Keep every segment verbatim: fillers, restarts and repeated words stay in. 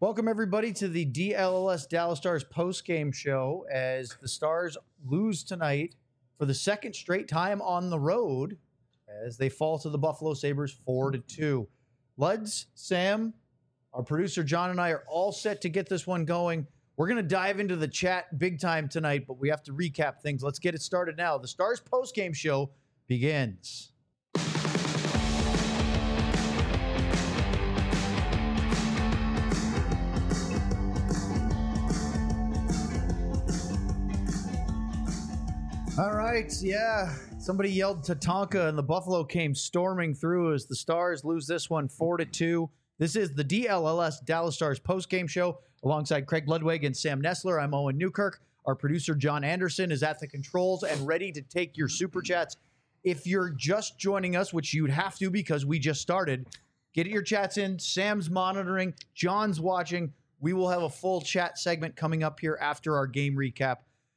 Welcome, everybody, to the D L L S Dallas Stars post-game show as the Stars lose tonight for the second straight time on the road as they fall to the Buffalo Sabres four to two. Luds, Sam, our producer John, and I are all set to get this one going. We're going to dive into the chat big time tonight, but we have to recap things. Let's get it started now. The Stars post-game show begins. All right, yeah. Somebody yelled Tatanka, and the Buffalo came storming through as the Stars lose this one four to two. This is the D L L S Dallas Stars post-game show alongside Craig Ludwig and Sam Nessler. I'm Owen Newkirk. Our producer John Anderson is at the controls and ready to take your super chats. If you're just joining us, which you'd have to because we just started, get your chats in. Sam's monitoring. John's watching. We will have a full chat segment coming up here after our game recap.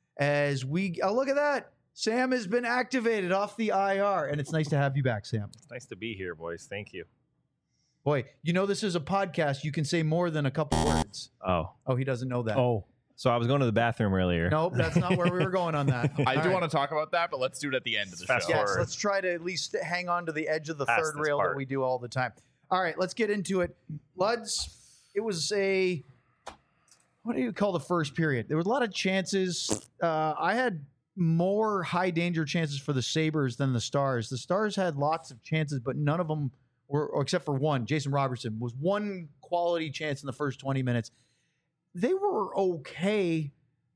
As we oh, look at that. Sam has been activated off the I R, and it's nice to have you back, Sam. It's nice to be here, boys. Thank you. Boy, you know this is a podcast. You can say more than a couple words. Oh. Oh, he doesn't know that. Oh. So I was going to the bathroom earlier. Nope, that's not where we were going on that. I All do right. want to talk about that, but let's do it at the end of the Fast show. Yes, forward. let's try to at least hang on to the edge of the Past third this rail part. that we do all the time. All right, let's get into it. Luds, it was a, what do you call the first period? There was a lot of chances. Uh, I had more high danger chances for the Sabres than the Stars. The Stars had lots of chances, but none of them were, or except for one, Jason Robertson, was one quality chance in the first twenty minutes. They were okay.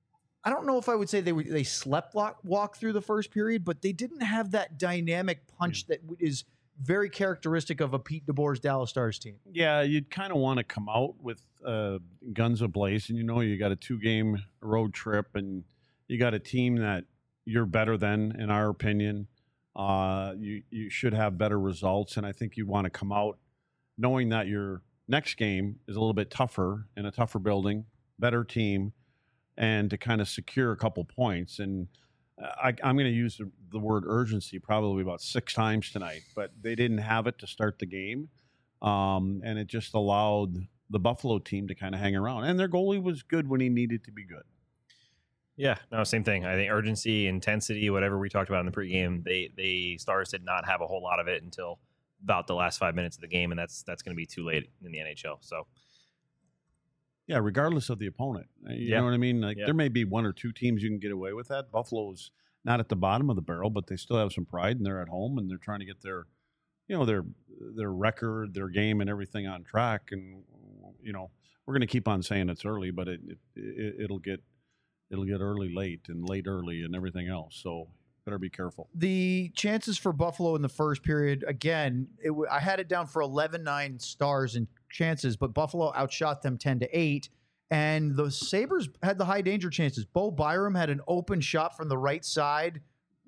I don't know if I would say they were, they slept walk, walk through the first period, but they didn't have that dynamic punch that is very characteristic of a Pete DeBoer's Dallas Stars team. Yeah, you'd kind of want to come out with uh, guns ablaze, and you know you got a two-game road trip, and you got a team that you're better than, in our opinion. Uh, you you should have better results, and I think you want to come out knowing that your next game is a little bit tougher in a tougher building, better team, and to kind of secure a couple points. And I, I'm going to use the, the word urgency probably about six times tonight, but they didn't have it to start the game, um, and it just allowed the Buffalo team to kind of hang around. And their goalie was good when he needed to be good. Yeah, no, same thing. I think urgency, intensity, whatever we talked about in the pregame, they they Stars did not have a whole lot of it until about the last five minutes of the game, and that's that's going to be too late in the N H L. So, yeah, regardless of the opponent, you yeah. know what I mean. Like yeah. there may be one or two teams you can get away with that. Buffalo's not at the bottom of the barrel, but they still have some pride, and they're at home, and they're trying to get their, you know, their their record, their game, and everything on track. And you know, we're going to keep on saying it's early, but it, it, it it'll get. It'll get early, late, and late, early, and everything else. So better be careful. The chances for Buffalo in the first period, again, it w- I had it down for eleven nine Stars in chances, but Buffalo outshot them ten to eight. And the Sabres had the high danger chances. Bo Byram had an open shot from the right side,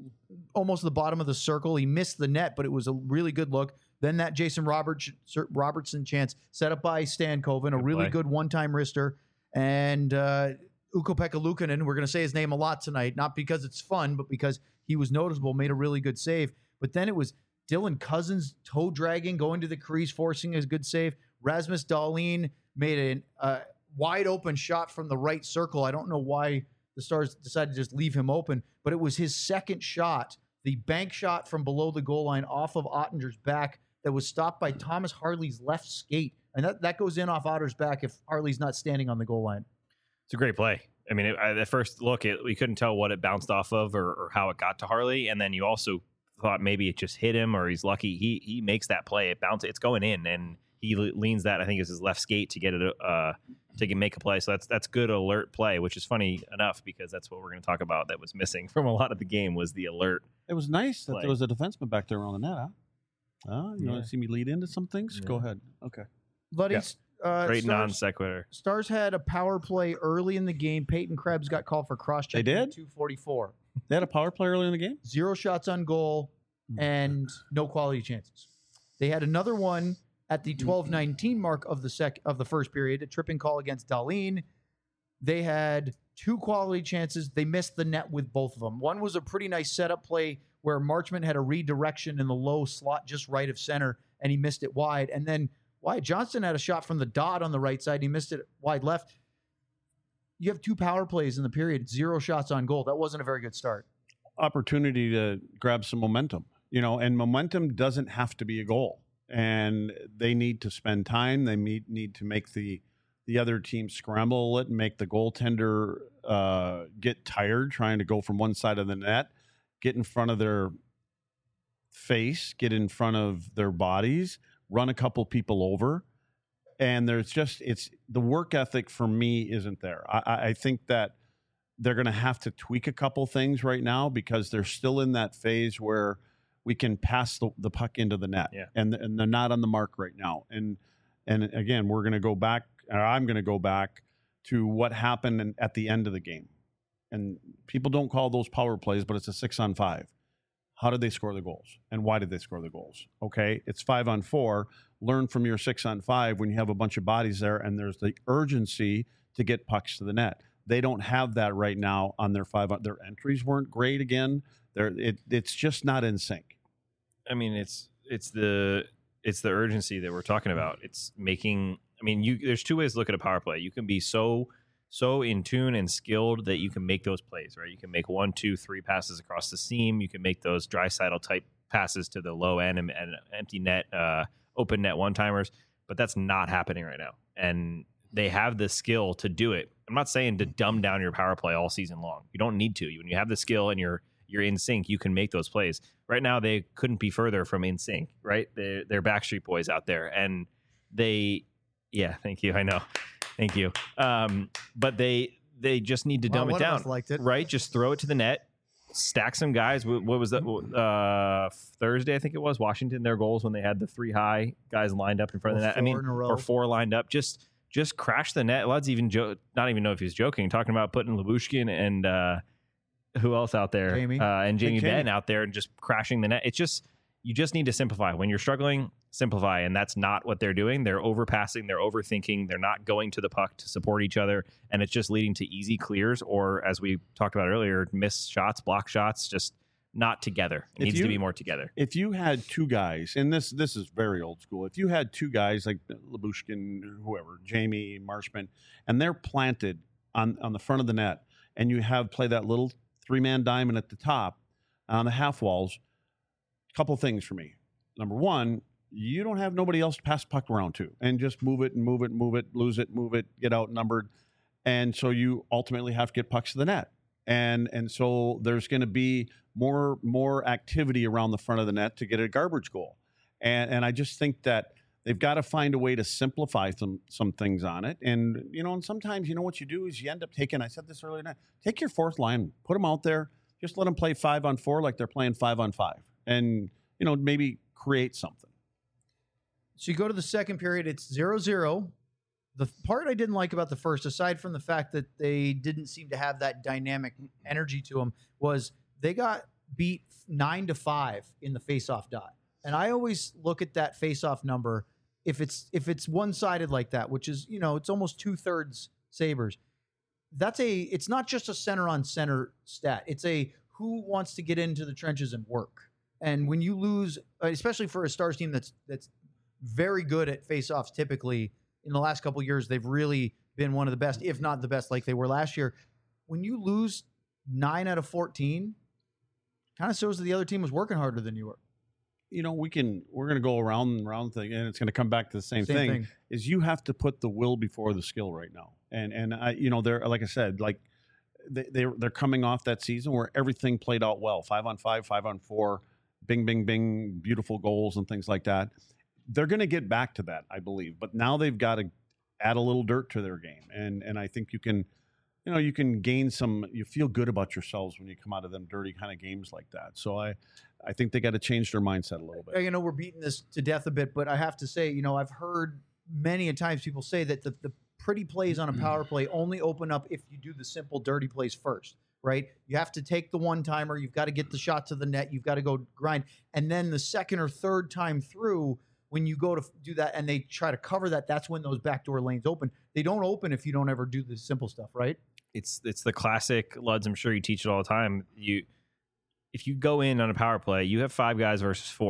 almost the bottom of the circle. He missed the net, but it was a really good look. Then that Jason Roberts, Robertson chance set up by Stankoven, a Good really play. good one-time wrister. And uh, Ukko-Pekka Luukkonen, we're going to say his name a lot tonight, not because it's fun, but because he was noticeable, made a really good save. But then it was Dylan Cousins toe-dragging, going to the crease, forcing a good save. Rasmus Dahlin made a uh, wide-open shot from the right circle. I don't know why the Stars decided to just leave him open, but it was his second shot, the bank shot from below the goal line off of Ottinger's back that was stopped by Thomas Harley's left skate. And that, that goes in off Otter's back if Harley's not standing on the goal line. it's a great play. I mean, it, at first look, it, we couldn't tell what it bounced off of or, or how it got to Harley, and then you also thought maybe it just hit him or he's lucky. He he makes that play. It bounces. It's going in, and he leans that. I think it's his left skate to get it uh, to get, make a play. So that's that's good alert play, which is funny enough because that's what we're going to talk about. That was missing from a lot of the game was the alert. It was nice that play. there was a defenseman back there on the net, huh? Uh, you Yeah. want to see me lead into some things? Yeah. Go ahead. Okay. Buddy, Yeah. uh, Great non Stars, sequitur. Stars had a power play early in the game. Peyton Krebs got called for cross-check. They did? two forty-four. They had a power play early in the game? Zero shots on goal and no quality chances. They had another one at the twelve nineteen mark of the sec of the first period, a tripping call against Dahlin. They had two quality chances. They missed the net with both of them. One was a pretty nice setup play where Marchment had a redirection in the low slot just right of center, and he missed it wide. And then Wyatt Johnston had a shot from the dot on the right side. He missed it wide left. You have two power plays in the period, zero shots on goal. That wasn't a very good start. Opportunity to grab some momentum, you know, and momentum doesn't have to be a goal. And they need to spend time. They need, need to make the the other team scramble it and make the goaltender uh, get tired trying to go from one side of the net, get in front of their face, get in front of their bodies, run a couple people over. And there's just, it's the work ethic for me isn't there. I, I think that they're going to have to tweak a couple things right now because they're still in that phase where we can pass the, the puck into the net. Yeah. And, and they're not on the mark right now. And, and again, we're going to go back, or I'm going to go back to what happened in, at the end of the game. And people don't call those power plays, but it's a six on five. How did they score the goals? And why did they score the goals? Okay, it's five on four. Learn from your six on five when you have a bunch of bodies there and there's the urgency to get pucks to the net. They don't have that right now on their five. Their entries weren't great again. They're, it, it's just not in sync. I mean, it's it's the it's the urgency that we're talking about. It's making. I mean, you there's two ways to look at a power play. You can be so so in tune and skilled that you can make those plays, right? You can make one, two, three passes across the seam. You can make those Draisaitl type passes to the low end and, and empty net, uh, open net one timers. But that's not happening right now, and they have the skill to do it. I'm not saying to dumb down your power play all season long. You don't need to. When you have the skill and you're you're in sync, you can make those plays. Right now, they couldn't be further from in sync, right? They're, they're Backstreet Boys out there, and they, yeah, thank you. I know. Thank you. Um, but they they just need to Well, dumb it one of down, us liked it. right? Just throw it to the net, stack some guys. What, what was that? Uh, Thursday, I think it was, Washington, their goals when they had the three high guys lined up in front Or of the net. I mean, four in a row. or four lined up. Just just crash the net. Led's even jo- not even know if he's joking, talking about putting Lyubushkin and uh, who else out there? Jamie. Uh, and Jamie And Jamie. Benn out there and just crashing the net. It's just, you just need to simplify. When you're struggling, simplify. And that's not what they're doing. They're overpassing. They're overthinking. They're not going to the puck to support each other. And it's just leading to easy clears or, as we talked about earlier, missed shots, block shots, just not together. It If needs you- to be more together. If you had two guys, and this this is very old school, if you had two guys like Lyubushkin, whoever, Jamie, Marshman, and they're planted on, on the front of the net, and you have play that little three-man diamond at the top on the half walls, a couple things for me. Number one, you don't have nobody else to pass the puck around to, and just move it and move it and move it, lose it, move it, get outnumbered. And so you ultimately have to get pucks to the net. And and so there's going to be more more activity around the front of the net to get a garbage goal. And and I just think that they've got to find a way to simplify some some things on it. And, you know, and sometimes, you know, what you do is you end up taking, I said this earlier tonight, take your fourth line, put them out there, just let them play five on four like they're playing five on five. And, you know, maybe create something. So you go to the second period, it's zero zero. The part I didn't like about the first, aside from the fact that they didn't seem to have that dynamic energy to them, was they got beat nine to five in the face-off dot. And I always look at that face-off number, if it's if it's one-sided like that, which is, you know, it's almost two-thirds Sabres. That's a, it's not just a center-on-center stat. It's a who wants to get into the trenches and work. And when you lose, especially for a Stars team that's that's very good at face-offs typically, in the last couple of years, they've really been one of the best, if not the best, like they were last year. When you lose nine out of fourteen, kind of shows that the other team was working harder than you were. You know, we can, we're going to go around and around thing, and it's going to come back to the same, Same thing, thing. is you have to put the will before the skill right now. And, and I, you know, they're, like I said, like they, they're, they're coming off that season where everything played out well, five on five, five on four, bing, bing, bing, beautiful goals and things like that. They're going to get back to that, I believe. But now they've got to add a little dirt to their game. And and I think you can, you know, you can gain some, you feel good about yourselves when you come out of them dirty kind of games like that. So I, I think they got to change their mindset a little bit. You know, we're beating this to death a bit, but I have to say, you know, I've heard many a times people say that the, the pretty plays on a power play only open up if you do the simple dirty plays first, right? You have to take the one-timer. You've got to get the shot to the net. You've got to go grind. And then the second or third time through, when you go to do that and they try to cover that, that's when those backdoor lanes open. They don't open if you don't ever do the simple stuff, right? It's it's the classic, Luds, I'm sure you teach it all the time. You if you go in on a power play, you have five guys versus four.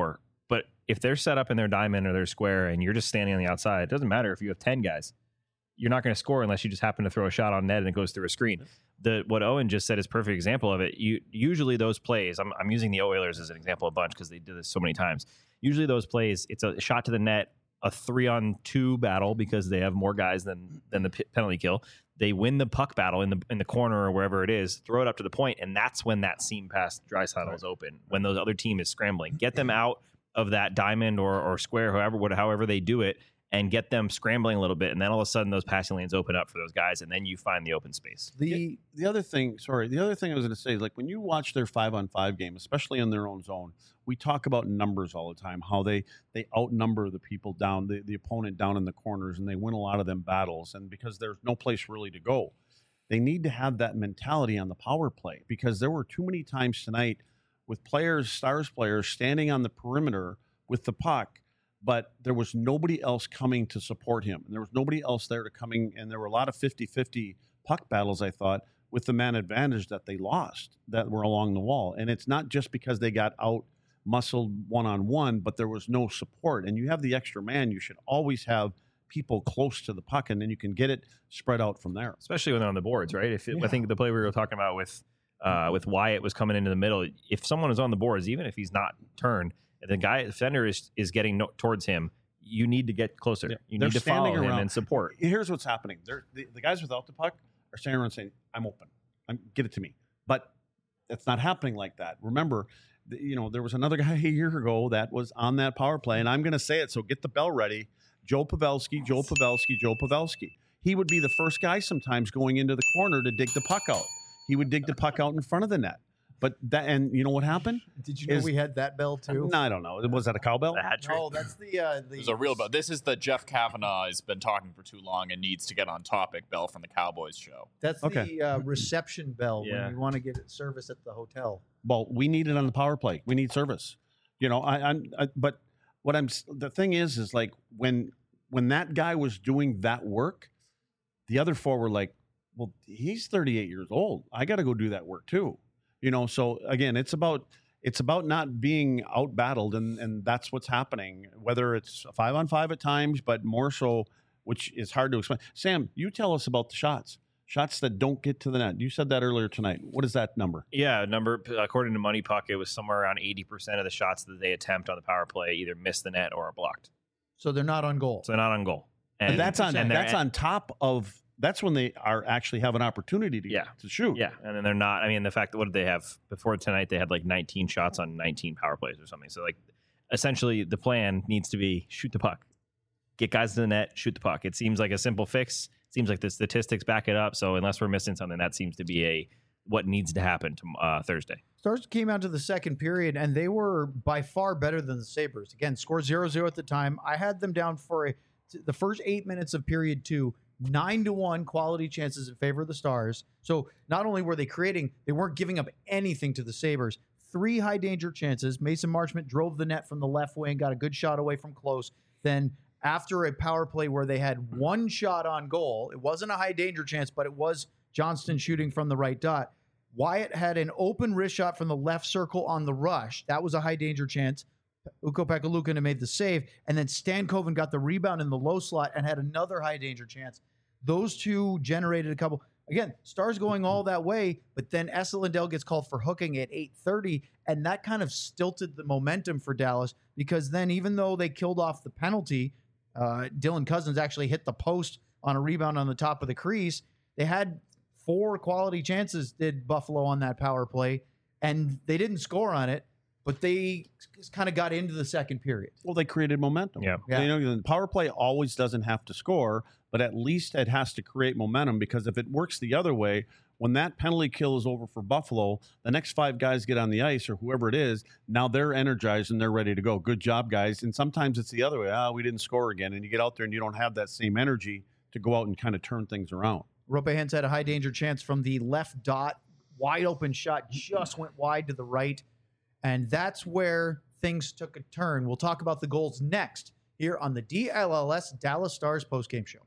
But if they're set up in their diamond or their square and you're just standing on the outside, it doesn't matter if you have ten guys. You're not going to score unless you just happen to throw a shot on net and it goes through a screen. The what Owen just said is a perfect example of it. You usually those plays, I'm, I'm using the Oilers as an example a bunch because they did this so many times. Usually those plays, it's a shot to the net, a three on two battle because they have more guys than than the p- penalty kill. They win the puck battle in the in the corner or wherever it is, throw it up to the point, and that's when that seam pass Draisaitl is open. When those other team is scrambling, get them out of that diamond or or square, however whatever, however they do it, and get them scrambling a little bit, and then all of a sudden those passing lanes open up for those guys, and then you find the open space. The The other thing, sorry, the other thing I was going to say is like when you watch their five on five game, especially in their own zone, we talk about numbers all the time, how they they outnumber the people down, the, the opponent down in the corners, and they win a lot of them battles. And because there's no place really to go, they need to have that mentality on the power play because there were too many times tonight with players, Stars players, standing on the perimeter with the puck, but there was nobody else coming to support him. And there was nobody else there to coming, and there were a lot of fifty-fifty puck battles, I thought, with the man advantage that they lost that were along the wall. And it's not just because they got out muscled one-on-one, but there was no support. And you have the extra man, you should always have people close to the puck, and then you can get it spread out from there. Especially when they're on the boards, right? If it, Yeah. I think the play we were talking about with uh, with Wyatt was coming into the middle, if someone is on the boards, even if he's not turned, the guy, the defender is, is getting no, towards him, you need to get closer. Yeah. You They're need to follow standing him around. and support. Here's what's happening. They're, the, the guys without the puck are standing around saying, I'm open. I'm, get it to me. But that's not happening like that. Remember, the, you know, there was another guy a year ago that was on that power play, and I'm going to say it, so get the bell ready. Joe Pavelski, Joe Pavelski, Joe Pavelski. He would be the first guy sometimes going into the corner to dig the puck out. He would dig the puck out in front of the net. But that, and you know what happened? did you know Is- we had that bell too? No, I don't know. Was that a cowbell? The hat trick. No, that's the uh, the. There's a real bell. This is the Jeff Kavanaugh has been talking for too long and needs to get on topic bell from the Cowboys show. That's Okay. the uh, reception bell Yeah. when you want to get service at the hotel. Well, we need it on the power play. We need service. You know, I, I'm. I, but what I'm. The thing is, is like when when that guy was doing that work, the other four were like, "Well, he's thirty-eight years old. I got to go do that work too." You know. So again, it's about it's about not being out battled, and and that's what's happening. Whether it's a five on five at times, but more so, which is hard to explain. Sam, you tell us about the shots. Shots that don't get to the net. You said that earlier tonight. What is that number? Yeah, number according to Money Puck, it was somewhere around eighty percent of the shots that they attempt on the power play either miss the net or are blocked. So they're not on goal. So they're not on goal. And that's on and they're- that's on top of that's when they are actually have an opportunity to Yeah. to shoot. Yeah, and then they're not. I mean, the fact that what did they have before tonight? They had like nineteen shots on nineteen power plays or something. So like, essentially, the plan needs to be shoot the puck, get guys to the net, shoot the puck. It seems like a simple fix. Seems like the statistics back it up. So unless we're missing something, that seems to be a what needs to happen to uh, Thursday. Stars came out to the second period, and they were by far better than the Sabres. Again, score zero zero at the time. I had them down for a, the first eight minutes of period two, nine to one quality chances in favor of the Stars. So not only were they creating, they weren't giving up anything to the Sabres. Three high danger chances. Mason Marchment drove the net from the left wing, got a good shot away from close. Then after a power play where they had one shot on goal, it wasn't a high danger chance, but it was Johnston shooting from the right dot. Wyatt had an open wrist shot from the left circle on the rush. That was a high danger chance. Ukko Pekka made the save. And then Stankoven got the rebound in the low slot and had another high danger chance. Those two generated a couple. Again, Stars going all that way, but then Esa Lindell gets called for hooking at eight thirty, and that kind of stilted the momentum for Dallas because then even though they killed off the penalty, uh, Dylan Cousins actually hit the post on a rebound on the top of the crease. They had four quality chances, did Buffalo, on that power play, and they didn't score on it, but they just kind of got into the second period. Well, they created momentum. Yeah. Yeah. You know, the power play always doesn't have to score, but at least it has to create momentum because if it works the other way, when that penalty kill is over for Buffalo, the next five guys get on the ice or whoever it is, now they're energized and they're ready to go. Good job, guys. And sometimes it's the other way. Ah, we didn't score again. And you get out there and you don't have that same energy to go out and kind of turn things around. Rope Hens had a high danger chance from the left dot. Wide open shot just went wide to the right. And that's where things took a turn. We'll talk about the goals next here on the D L L S Dallas Stars postgame show.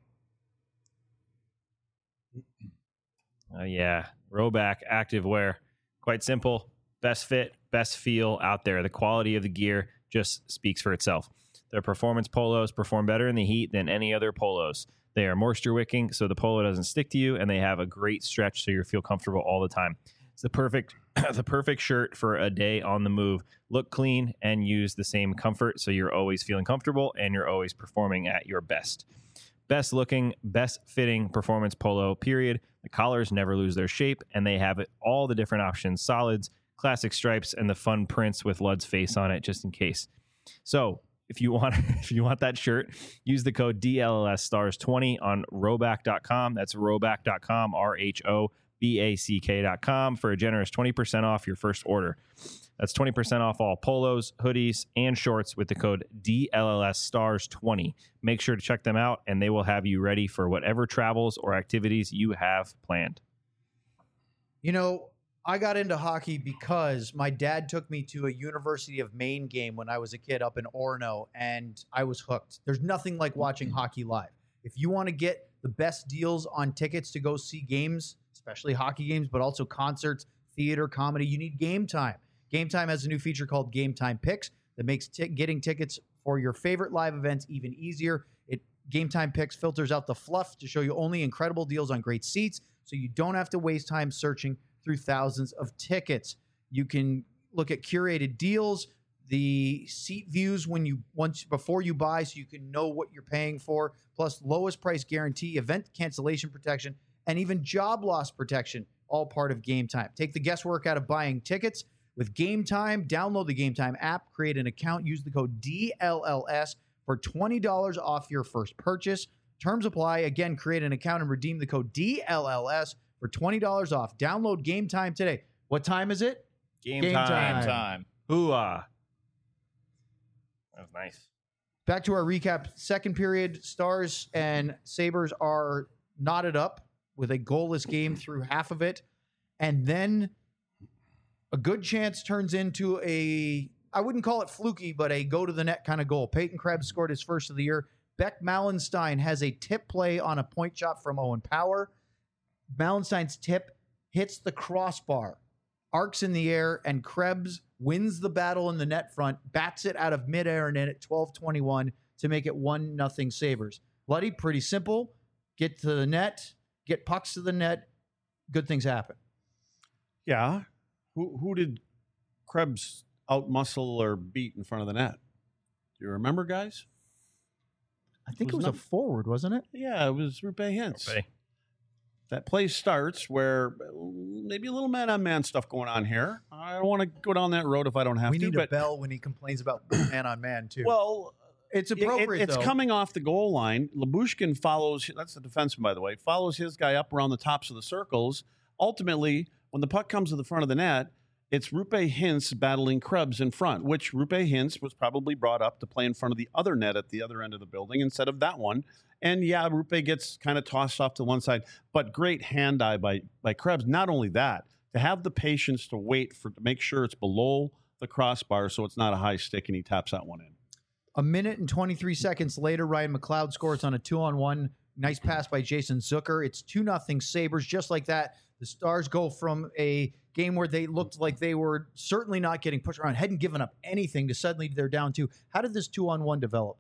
Uh, yeah, Roback active wear, quite simple, best fit, best feel out there. The quality of the gear just speaks for itself. Their performance polos perform better in the heat than any other polos. They are moisture wicking, so the polo doesn't stick to you, and they have a great stretch, so you feel comfortable all the time. It's the perfect, the perfect shirt for a day on the move. Look clean and use the same comfort, so you're always feeling comfortable and you're always performing at your best. Best looking, best fitting performance polo, period. The collars never lose their shape, and they have all the different options: solids, classic stripes, and the fun prints with Lud's face on it, just in case. So if you want if you want that shirt, use the code D L L S stars twenty on roback dot com. That's roback dot com, R H O B A C K dot com, for a generous twenty percent off your first order. That's twenty percent off all polos, hoodies, and shorts with the code D L L S stars twenty. Make sure to check them out, and they will have you ready for whatever travels or activities you have planned. You know, I got into hockey because my dad took me to a University of Maine game when I was a kid up in Orono, and I was hooked. There's nothing like watching hockey live. If you want to get the best deals on tickets to go see games, especially hockey games, but also concerts, theater, comedy, you need Game Time. Game Time has a new feature called Game Time Picks that makes t- getting tickets for your favorite live events even easier. It Game Time Picks filters out the fluff to show you only incredible deals on great seats, so you don't have to waste time searching through thousands of tickets. You can look at curated deals, the seat views when you once before you buy, so you can know what you're paying for, plus lowest price guarantee, event cancellation protection, and even job loss protection, all part of Game Time. Take the guesswork out of buying tickets with Game Time. Download the Game Time app, create an account, use the code D L L S for twenty dollars off your first purchase. Terms apply. Again, create an account and redeem the code D L L S for twenty dollars off. Download Game Time today. What time is it? Game, Game time. time. Game time. Hoo-ah. That was nice. Back to our recap. Second period, Stars and Sabres are knotted up with a goalless game through half of it. And then a good chance turns into a, I wouldn't call it fluky, but a go-to-the-net kind of goal. Peyton Krebs scored his first of the year. Beck Mallenstein has a tip play on a point shot from Owen Power. Mallenstein's tip hits the crossbar, arcs in the air, and Krebs wins the battle in the net front, bats it out of midair and in at twelve twenty-one to make it one nothing Sabres. Bloody, pretty simple. Get to the net, get pucks to the net, good things happen. Yeah. Who who did Krebs outmuscle or beat in front of the net? Do you remember, guys? I think it Was was, not- a forward, wasn't it? Yeah, it was Rupe Hintz. Okay. That play starts where maybe a little man-on-man stuff going on here. I don't want to go down that road if I don't have We to. need a but, bell when he complains about man on man, too. well, it's it- it- appropriate, it's though. coming off the goal line. Labushkin follows, that's the defenseman, by the way, follows his guy up around the tops of the circles. Ultimately, when the puck comes to the front of the net, it's Rupe Hintz battling Krebs in front, which Rupe Hintz was probably brought up to play in front of the other net at the other end of the building instead of that one. And yeah, Rupe gets kind of tossed off to one side, but great hand eye by, by Krebs. Not only that, to have the patience to wait for to make sure it's below the crossbar so it's not a high stick and he taps that one in. A minute and twenty-three seconds later, Ryan McLeod scores on a two-on-one. Nice pass by Jason Zucker. It's two nothing Sabres. Just like that, the Stars go from a game where they looked like they were certainly not getting pushed around, hadn't given up anything, to suddenly they're down two. How did this two-on-one develop?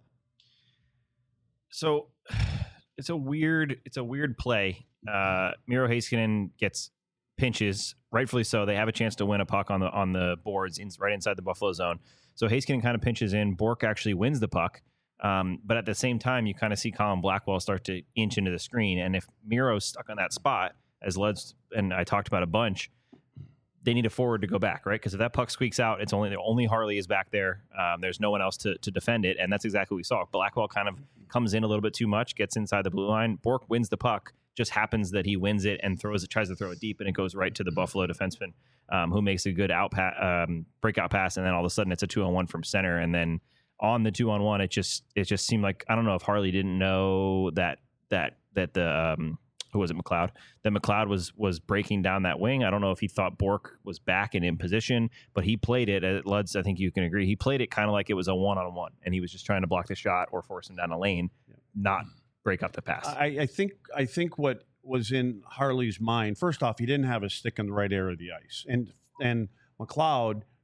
So it's a weird, it's a weird play. Uh, Miro Heiskanen gets pinches, rightfully so. They have a chance to win a puck on the on the boards, in, right inside the Buffalo zone. So Heiskanen kind of pinches in. Bork actually wins the puck, um, but at the same time, you kind of see Colin Blackwell start to inch into the screen. And if Miro's stuck on that spot, as Led's and I talked about a bunch, they need a forward to go back, right? Because if that puck squeaks out, it's only only Harley is back there. Um, there's no one else to to defend it, and that's exactly what we saw. Blackwell kind of comes in a little bit too much, gets inside the blue line. Bork wins the puck. Just happens that he wins it and throws it, tries to throw it deep, and it goes right to the Buffalo defenseman, um, who makes a good out pa- um, breakout pass, and then all of a sudden it's a two on one from center, and then on the two on one, it just it just seemed like, I don't know if Harley didn't know that that that the um, who was it, McLeod? That McLeod was was breaking down that wing. I don't know if he thought Bork was back and in position, but he played it at Luds. I think you can agree. He played it kind of like it was a one on one, and he was just trying to block the shot or force him down the lane, Yeah. not break up the pass. I, I think I think what was in Harley's mind, first off, he didn't have a stick in the right area of the ice, and and McLeod,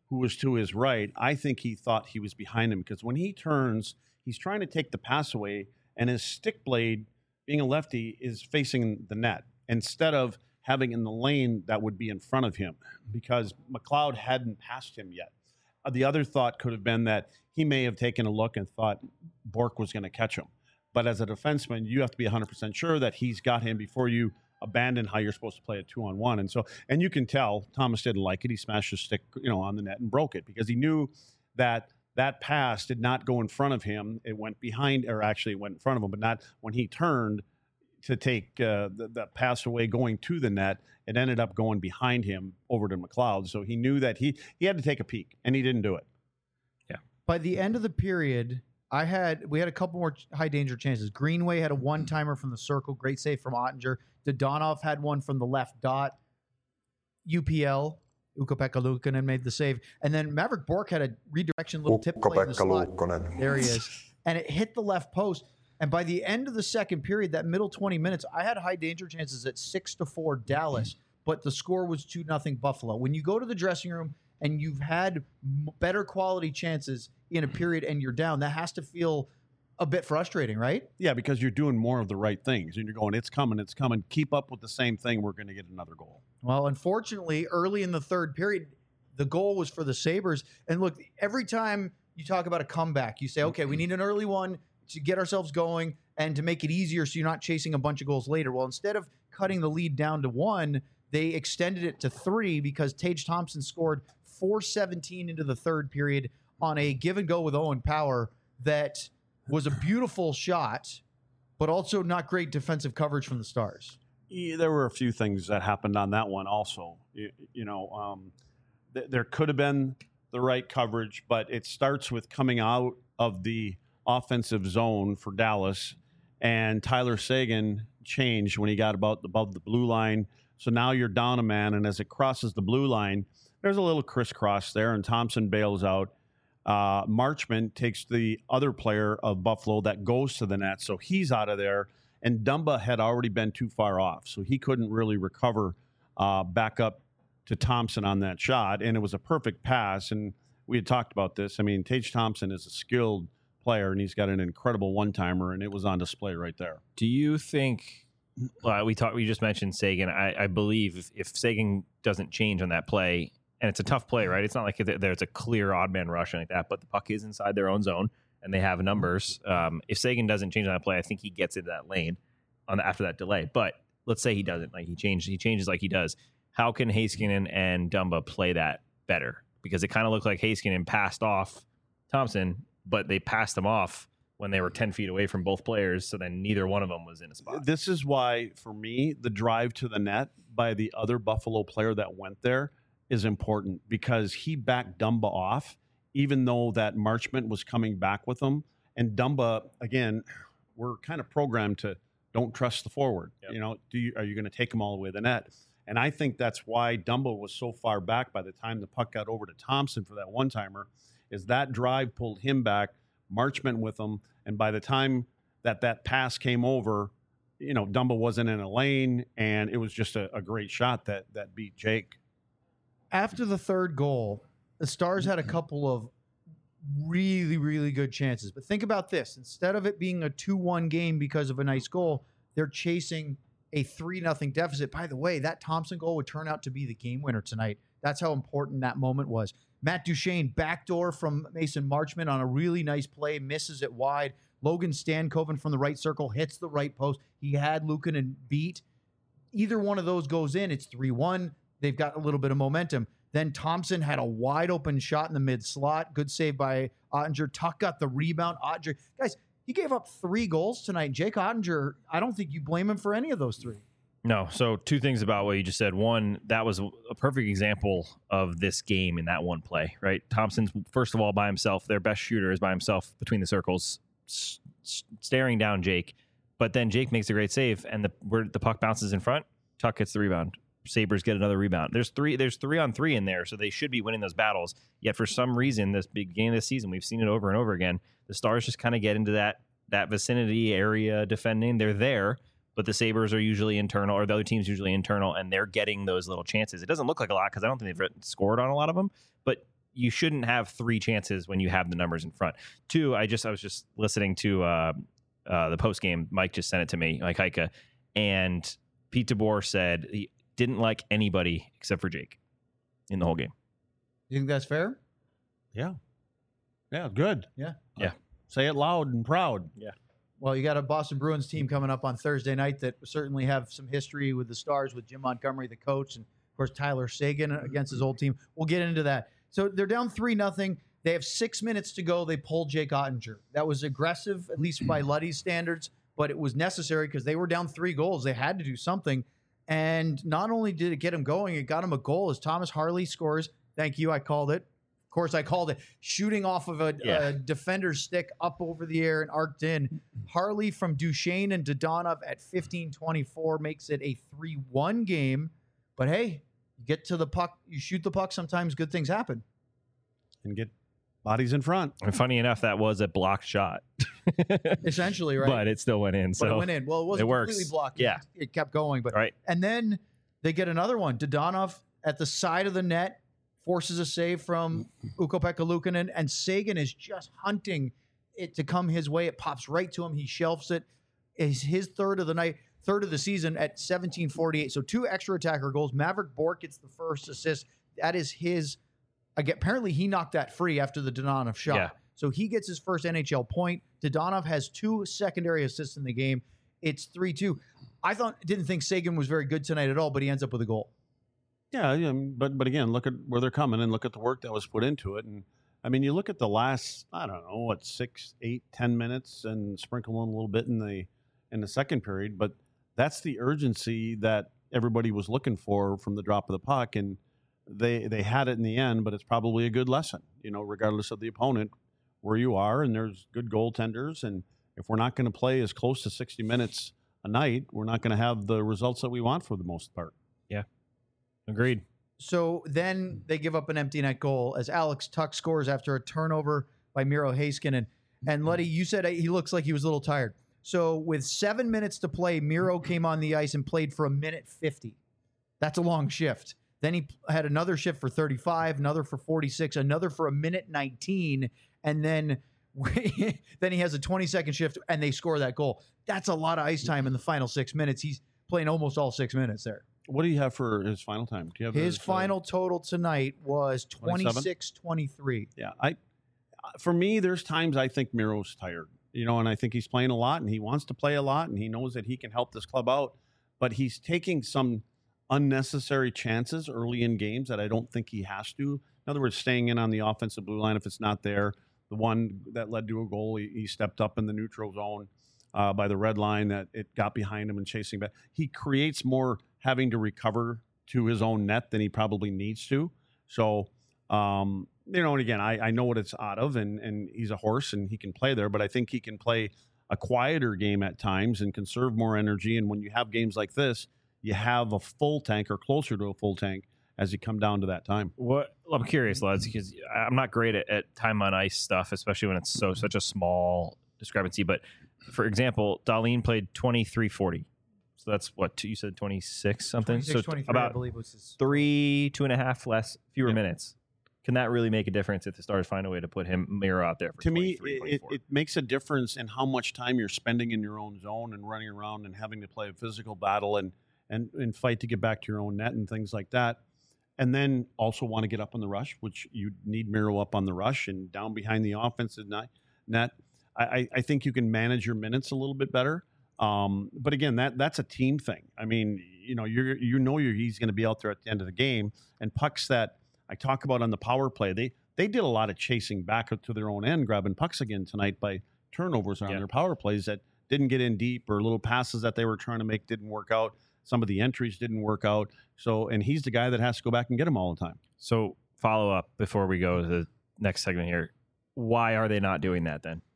who was to his right, I think he thought he was behind him because when he turns, he's trying to take the pass away, and his stick blade, being a lefty, is facing the net instead of having in the lane that would be in front of him because McLeod hadn't passed him yet. Uh, the other thought could have been that he may have taken a look and thought Bork was going to catch him. But as a defenseman, you have to be one hundred percent sure that he's got him before you abandon how you're supposed to play a two-on-one. And so, and you can tell Thomas didn't like it. He smashed his stick, you know, on the net and broke it because he knew that that pass did not go in front of him. It went behind, or actually it went in front of him, but not when he turned to take uh, the, the pass away going to the net. It ended up going behind him over to McLeod. So he knew that he, he had to take a peek, and he didn't do it. Yeah. By the end of the period, I had we had a couple more high danger chances. Greenway had a one timer from the circle, great save from Ottinger. Dodonov had one from the left dot. U P L, Ukko-Pekka Luukkonen made the save, and then Maverick Bork had a redirection little tip play in the slot. There he is, and it hit the left post. And by the end of the second period, that middle twenty minutes, I had high danger chances at six to four Dallas, but the score was two nothing Buffalo. When you go to the dressing room and you've had better quality chances in a period and you're down, that has to feel a bit frustrating, right? Yeah, because you're doing more of the right things, and you're going, it's coming, it's coming. Keep up with the same thing. We're going to get another goal. Well, unfortunately, early in the third period, the goal was for the Sabres. And look, every time you talk about a comeback, you say, okay, we need an early one to get ourselves going and to make it easier so you're not chasing a bunch of goals later. Well, instead of cutting the lead down to one, they extended it to three because Tage Thompson scored four seventeen into the third period on a give and go with Owen Power that was a beautiful shot, but also not great defensive coverage from the Stars. Yeah, there were a few things that happened on that one also. You, you know, um, th- there could have been the right coverage, but it starts with coming out of the offensive zone for Dallas, and Tyler Seguin changed when he got about above the blue line. So now you're down a man, and as it crosses the blue line, there's a little crisscross there, and Thompson bails out. Uh, Marchment takes the other player of Buffalo that goes to the net, so he's out of there. And Dumba had already been too far off, so he couldn't really recover uh, back up to Thompson on that shot. And it was a perfect pass, and we had talked about this. I mean, Tage Thompson is a skilled player, and he's got an incredible one-timer, and it was on display right there. Do you think uh, we talked? We just mentioned Seguin. I, I believe if, if Seguin doesn't change on that play, and it's a tough play, right? It's not like there's a clear odd man rush like that, but the puck is inside their own zone, and they have numbers. Um, if Seguin doesn't change on that play, I think he gets into that lane on the, after that delay. But let's say he doesn't, like he changes, he changes like he does. How can Heiskanen and Dumba play that better? Because it kind of looked like Heiskanen passed off Thompson, but they passed him off when they were ten feet away from both players, so then neither one of them was in a spot. This is why, for me, the drive to the net by the other Buffalo player that went there is important, because he backed Dumba off, even though that Marchment was coming back with him. And Dumba, again, we're kind of programmed to don't trust the forward. Yep. You know, do you, are you going to take him all the way to the net? And I think that's why Dumba was so far back by the time the puck got over to Thompson for that one-timer, is that drive pulled him back, Marchment with him, and by the time that that pass came over, you know, Dumba wasn't in a lane, and it was just a, a great shot that that beat Jake. After the third goal, the Stars had a couple of really, really good chances. But think about this. Instead of it being a two one game because of a nice goal, they're chasing a three nothing deficit. By the way, that Thompson goal would turn out to be the game winner tonight. That's how important that moment was. Matt Duchene, backdoor from Mason Marchment on a really nice play, misses it wide. Logan Stankoven from the right circle hits the right post. He had Luukkonen beat. Either one of those goes in, it's three one. They've got a little bit of momentum. Then Thompson had a wide open shot in the mid slot. Good save by Ottinger. Tuck got the rebound. Ottinger, guys, he gave up three goals tonight. Jake Ottinger, I don't think you blame him for any of those three. No. So two things about what you just said. One, that was a perfect example of this game in that one play, right? Thompson's, first of all, by himself. Their best shooter is by himself between the circles, s- s- staring down Jake. But then Jake makes a great save, and the where the puck bounces in front, Tuck gets the rebound. Sabres get another rebound. There's three There's three on three in there, so they should be winning those battles. Yet for some reason, this big game of this season, we've seen it over and over again, the Stars just kind of get into that that vicinity area defending. They're there, but the Sabres are usually internal, or the other team's usually internal, and they're getting those little chances. It doesn't look like a lot because I don't think they've scored on a lot of them, but you shouldn't have three chances when you have the numbers in front. Two, I just I was just listening to uh, uh, the post game. Mike just sent it to me, Mike Heika, and Pete DeBoer said he didn't like anybody except for Jake in the whole game. You think that's fair? Yeah. Yeah, good. Yeah. Yeah. Say it loud and proud. Yeah. Well, you got a Boston Bruins team coming up on Thursday night that certainly have some history with the Stars, with Jim Montgomery, the coach, and of course Tyler Seguin against his old team. We'll get into that. So they're down three nothing. They have six minutes to go. They pulled Jake Ottinger. That was aggressive, at least by Luddy's standards, but it was necessary because they were down three goals. They had to do something. And not only did it get him going, it got him a goal as Thomas Harley scores. Thank you. I called it. Of course, I called it. Shooting off of a, Yeah. a defender's stick up over the air and arced in. Harley from Duchesne and Dodonov at fifteen twenty-four makes it a three one game. But hey, you get to the puck, you shoot the puck, sometimes good things happen. And get bodies in front. And funny enough, that was a blocked shot. Essentially, right? But it still went in. But So it went in. Well, it wasn't it works. completely blocked. Yeah. It, it kept going. But right. And then they get another one. Dodonov at the side of the net forces a save from Ukko-Pekka Luukkonen, and Seguin is just hunting it to come his way. It pops right to him. He shelves it. Is his third of the night, third of the season at seventeen forty-eight. So two extra attacker goals. Maverick Bourque gets the first assist. That is his. Again, apparently he knocked that free after the Dodonov shot. Yeah. So he gets his first N H L point. Dodonov has two secondary assists in the game. It's three two. I thought didn't think Seguin was very good tonight at all, but he ends up with a goal. Yeah, yeah, but but again, look at where they're coming and look at the work that was put into it. And I mean, you look at the last, I don't know, what six, eight, ten minutes, and sprinkle in a little bit in the in the second period. But that's the urgency that everybody was looking for from the drop of the puck, and they they had it in the end. But it's probably a good lesson, you know, regardless of the opponent, where you are, and there's good goaltenders. And if we're not going to play as close to sixty minutes a night, we're not going to have the results that we want for the most part. Yeah. Agreed. So then they give up an empty net goal as Alex Tuck scores after a turnover by Miro Heiskanen. And Luddy, you said he looks like he was a little tired. So with seven minutes to play, Miro came on the ice and played for a minute fifty. That's a long shift. Then he had another shift for thirty-five, another for forty-six, another for a minute nineteen, and then then he has a twenty-second shift, and they score that goal. That's a lot of ice time in the final six minutes. He's playing almost all six minutes there. What do you have for his final time? Do you have His uh, final total tonight was twenty-six twenty-three. Yeah, I. For me, there's times I think Miro's tired, you know, and I think he's playing a lot, and he wants to play a lot, and he knows that he can help this club out, but he's taking some unnecessary chances early in games that I don't think he has to. In other words, staying in on the offensive blue line if it's not there. The one that led to a goal, he, he stepped up in the neutral zone uh, by the red line that it got behind him and chasing back. He creates more having to recover to his own net than he probably needs to. So, um, you know, and again, I, I know what it's out of, and, and he's a horse and he can play there, but I think he can play a quieter game at times and conserve more energy. And when you have games like this, you have a full tank or closer to a full tank as you come down to that time. What I'm curious, lads, because I'm not great at, at time on ice stuff, especially when it's so such a small discrepancy. But for example, Dahlin played twenty-three forty. So that's what two, you said twenty-six something. twenty-six So twenty-three, about I believe was his. three, two and a half less, fewer Yeah. minutes. Can that really make a difference if the Stars find a way to put him Miro out there for To me, twenty-three, it, twenty-four? it makes a difference in how much time you're spending in your own zone and running around and having to play a physical battle and, and, and fight to get back to your own net and things like that. And then also want to get up on the rush, which you need Miro up on the rush and down behind the offensive net. I, I think you can manage your minutes a little bit better. Um, but again, that that's a team thing. I mean, you know, you're you know you're, he's going to be out there at the end of the game. And pucks that I talk about on the power play, they they did a lot of chasing back to their own end, grabbing pucks again tonight by turnovers on Yeah. their power plays that didn't get in deep, or little passes that they were trying to make didn't work out. Some of the entries didn't work out. So, and he's the guy that has to go back and get them all the time. So follow up before we go to the next segment here. Why are they not doing that then?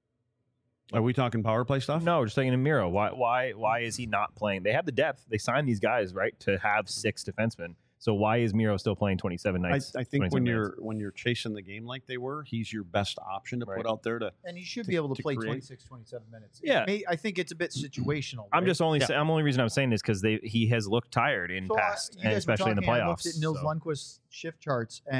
Are we talking power play stuff? No, just thinking of Miro. Why why why is he not playing? They have the depth. They signed these guys, right, to have six defensemen. So why is Miro still playing twenty-seven I, nights? I think when twenty-seven you're minutes? when you're chasing the game like they were, he's your best option to Right. put out there to. And he should to- be able to, to play create. twenty-six, twenty-seven minutes. Yeah. It may, I think it's a bit situational. I'm right? just only Yeah. sa- I'm only reason I'm saying this because they he has looked tired in So, uh, past you and guys were especially in the talking, I playoffs. looked at Nils so. Lundqvist's shift charts, and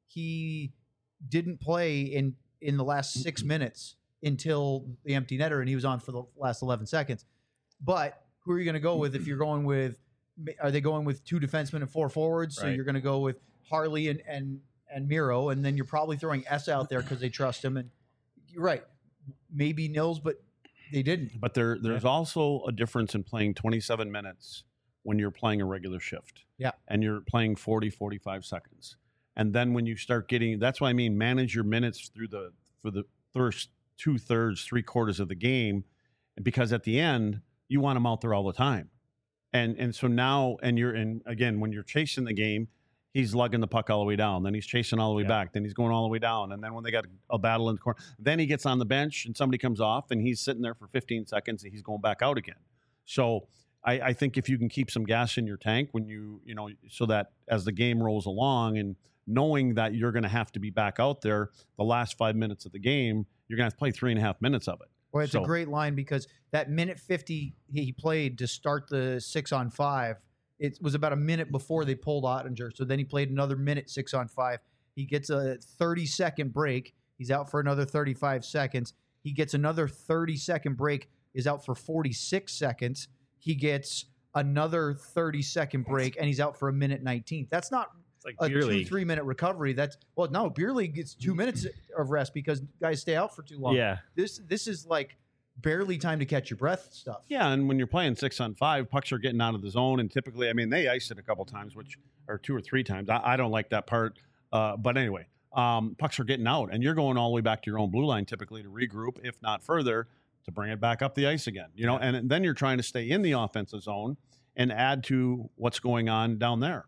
he didn't play in in the last six minutes until the empty netter, and he was on for the last eleven seconds. But who are you going to go with if you're going with? Are they going with two defensemen and four forwards? So Right. you're going to go with Harley and and and Miro, and then you're probably throwing S out there because they trust him. And you're right, maybe Nils, but they didn't. But there, there's also a difference in playing twenty-seven minutes when you're playing a regular shift. Yeah. And you're playing forty, forty-five seconds. And then when you start getting, that's why I mean, manage your minutes through the, for the first two thirds, three quarters of the game, because at the end, you want them out there all the time. And, and so now, and you're in, again, when you're chasing the game, he's lugging the puck all the way down. Then he's chasing all the way Yeah. back. Then he's going all the way down. And then when they got a battle in the corner, then he gets on the bench and somebody comes off and he's sitting there for fifteen seconds and he's going back out again. So I, I think if you can keep some gas in your tank when you, you know, so that as the game rolls along and knowing that you're going to have to be back out there the last five minutes of the game, you're going to have to play three and a half minutes of it. Well, it's So- a great line because that minute fifty he played to start the six on five, it was about a minute before they pulled Ottinger. So then he played another minute six on five. He gets a thirty second break. He's out for another thirty-five seconds. He gets another thirty second break, is out for forty-six seconds. He gets another thirty second break, and he's out for a minute nineteen. That's not It's like a beer two, league. three minute recovery. That's well, no, beer league gets two minutes of rest because guys stay out for too long. Yeah. This this is like barely time to catch your breath stuff. Yeah, and when you're playing six on five, pucks are getting out of the zone, and typically, I mean, they iced it a couple times, which or two or three times. I, I don't like that part, uh, but anyway, um, pucks are getting out, and you're going all the way back to your own blue line typically to regroup, if not further, to bring it back up the ice again. You know, and then you're trying to stay in the offensive zone and add to what's going on down there.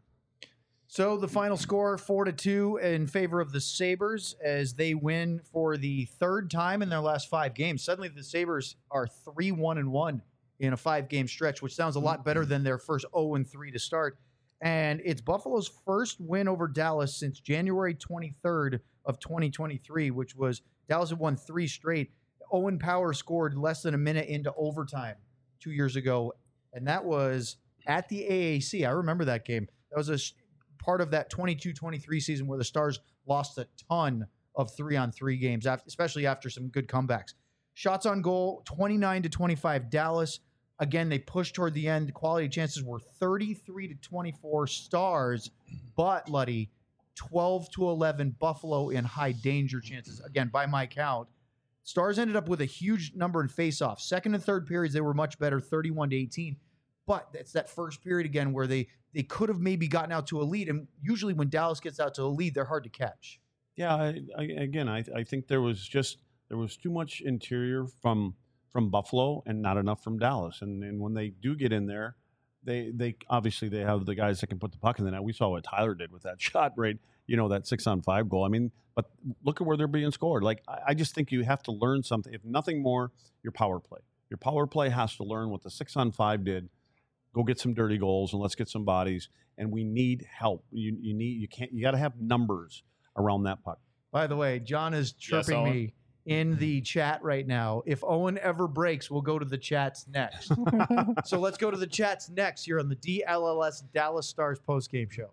So the final score, four to two in favor of the Sabres as they win for the third time in their last five games. Suddenly the Sabres are three one and one in a five game stretch, which sounds a lot better than their first oh and three to start. And it's Buffalo's first win over Dallas since January twenty-third of twenty twenty-three, which was Dallas had won three straight. Owen Power scored less than a minute into overtime two years ago, and that was at the A A C. I remember that game. That was a sh- part of that twenty-two twenty-three season where the Stars lost a ton of three-on-three games, after, especially after some good comebacks. Shots on goal, twenty-nine to twenty-five Dallas. Again, they pushed toward the end. The quality chances were thirty-three to twenty-four Stars, but, Luddy, twelve to eleven Buffalo in high danger chances. Again, by my count. Stars ended up with a huge number in faceoffs. Second and third periods, they were much better, thirty-one to eighteen. But it's that first period again where they they could have maybe gotten out to a lead. And usually when Dallas gets out to a lead, they're hard to catch. Yeah, I, I, again, I, I think there was just there was too much interior from from Buffalo and not enough from Dallas. And and when they do get in there, they they obviously they have the guys that can put the puck in the net. We saw what Tyler did with that shot, right? You know, that six on five goal. I mean, but look at where they're being scored. Like I, I just think you have to learn something. If nothing more, your power play. Your power play has to learn what the six on five did. Go get some dirty goals and let's get some bodies. And we need help. You you need you can't you got to have numbers around that puck. By the way, John is chirping Owen. me in the chat right now. If Owen ever breaks, we'll go to the chats next. So let's go to the chats next here on the D L L S Dallas Stars postgame show.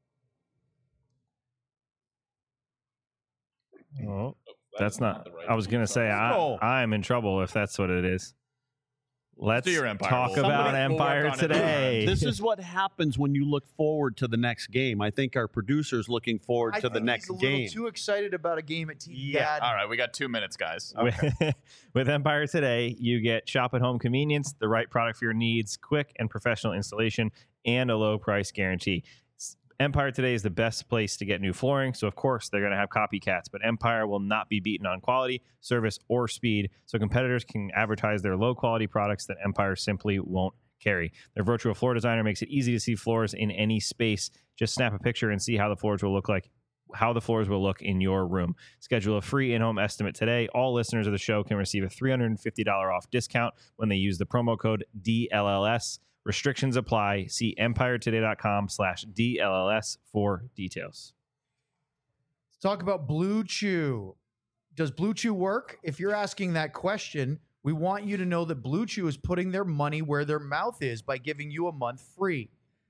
Oh, Oh, that's not. the right I was one. going to say, I, Oh. I'm in trouble if that's what it is. Let's do your Empire. talk We'll- about somebody- we'll work Empire on it. today. This is what happens when you look forward to the next game. I think our producer's looking forward I to the think next he's a little game. too excited about a game at T V Yeah. Dad. All right, we got two minutes, guys. With, with Empire Today, you get shop at home convenience, the right product for your needs, quick and professional installation, and a low price guarantee. S- Empire Today is the best place to get new flooring, so of course they're going to have copycats, but Empire will not be beaten on quality, service, or speed, so competitors can advertise their low quality products that Empire simply won't carry. Their virtual floor designer makes it easy to see floors in any space. Just snap a picture and see how the floors will look like how the floors will look in your room. Schedule a free in-home estimate today. All listeners of the show can receive a three hundred fifty dollars off discount when they use the promo code D L L S. Restrictions apply. See empiretoday.com slash DLLS for details. Let's talk about Blue Chew. Does Blue Chew work? If you're asking that question, we want you to know that Blue Chew is putting their money where their mouth is by giving you a month free.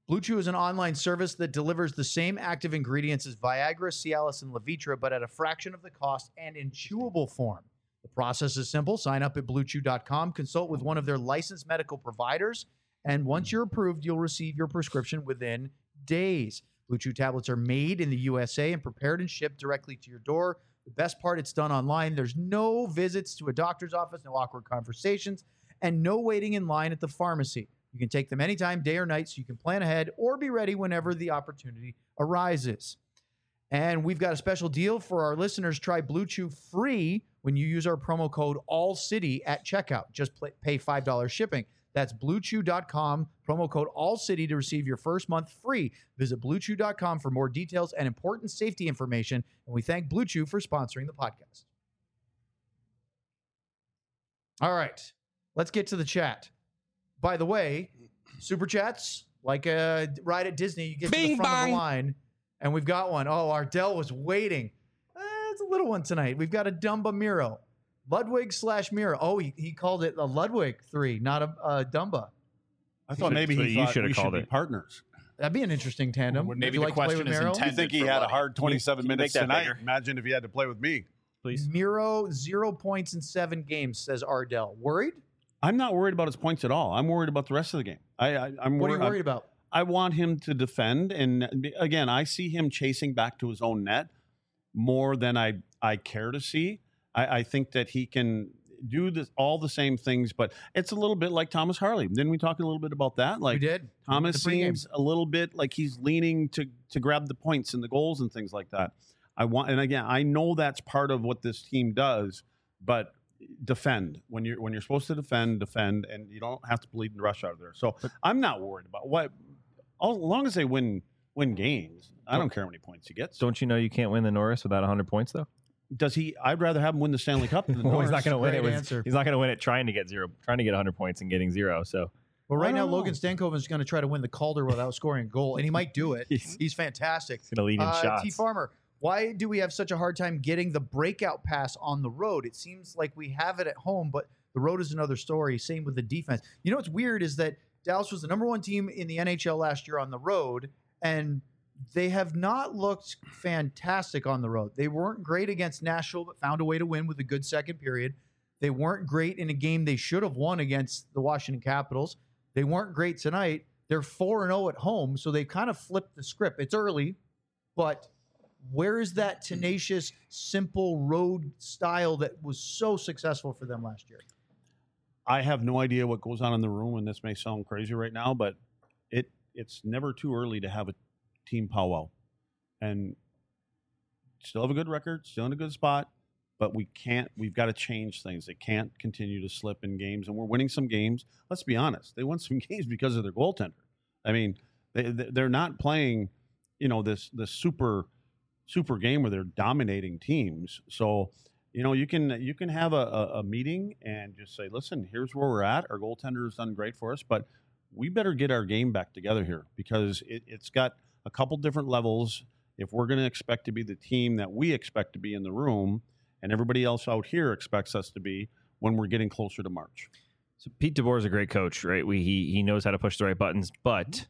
Blue Chew is an online service that delivers the same active ingredients as Viagra, Cialis, and Levitra, but at a fraction of the cost and in chewable form. The process is simple. Sign up at blue chew dot com, consult with one of their licensed medical providers, and once you're approved, you'll receive your prescription within days. Blue Chew tablets are made in the U S A and prepared and shipped directly to your door. The best part, it's done online. There's no visits to a doctor's office, no awkward conversations, and no waiting in line at the pharmacy. You can take them anytime, day or night, so you can plan ahead or be ready whenever the opportunity arises. And we've got a special deal for our listeners. Try Blue Chew free when you use our promo code ALLCITY at checkout. Just play, pay five dollars shipping. That's blue chew dot com, promo code ALLCITY to receive your first month free. Visit blue chew dot com for more details and important safety information. And we thank Blue Chew for sponsoring the podcast. All right, let's get to the chat. By the way, super chats, like a ride at Disney, you get Bing to the front bang. of the line, and we've got one. Oh, Ardell was waiting. Eh, it's a little one tonight. We've got a Dumba Miro. Ludwig slash Miro. Oh, he, he called it a Ludwig three, not a, a Dumba. I thought Should- maybe so he you thought should have we should called be it. partners. That'd be an interesting tandem. Would Would maybe you the like to play question with is Miro? intended. You think he for had a Luddy. hard twenty-seven Can you minutes make that tonight? bigger? Imagine if he had to play with me. Please. Miro, zero points in seven games, says Ardell. Worried? I'm not worried about his points at all. I'm worried about the rest of the game. I, I, I'm What are worried. you worried about? I want him to defend, and again, I see him chasing back to his own net more than I I care to see. I, I think that he can do this, all the same things, but it's a little bit like Thomas Harley. Didn't we talk a little bit about that? Like we did. Thomas The pregame. seems a little bit like he's leaning to to grab the points and the goals and things like that. I want, and again, I know that's part of what this team does, but defend when you're when you're supposed to defend, defend, and you don't have to bleed and rush out of there. So I'm not worried about what, as long as they win win games. I don't care how many points he gets. Don't you know you can't win the Norris without one hundred points, though? Does he? I'd rather have him win the Stanley Cup than the Well, Norris. he's not going to win it. Great With, answer. he's not going to win it trying to get zero, trying to get one hundred points and getting zero. So Well, right I now, don't Logan know. Stankoven is going to try to win the Calder without scoring a goal, and he might do it. He's- He's fantastic. he's going to lead in Uh, shots. T. Farmer, why do we have such a hard time getting the breakout pass on the road? It seems like we have it at home, but the road is another story. Same with the defense. You know what's weird is that Dallas was the number one team in the N H L last year on the road, and they have not looked fantastic on the road. They weren't great against Nashville, but found a way to win with a good second period. They weren't great in a game they should have won against the Washington Capitals. They weren't great tonight. They're four and oh at home, so they've kind of flipped the script. It's early, but where is that tenacious, simple road style that was so successful for them last year? I have no idea what goes on in the room, and this may sound crazy right now, but it it's never too early to have a team powwow, and still have a good record, still in a good spot, but we can't. We've got to change things. They can't continue to slip in games, and we're winning some games. Let's be honest; they won some games because of their goaltender. I mean, they they're not playing, you know, this this super super game where they're dominating teams. So. You know, you can you can have a, a, a meeting and just say, listen, here's where we're at. Our goaltender has done great for us, but we better get our game back together here because it, it's got a couple different levels. If we're going to expect to be the team that we expect to be in the room and everybody else out here expects us to be when we're getting closer to March. So Pete DeBoer is a great coach, right? We, he he knows how to push the right buttons, but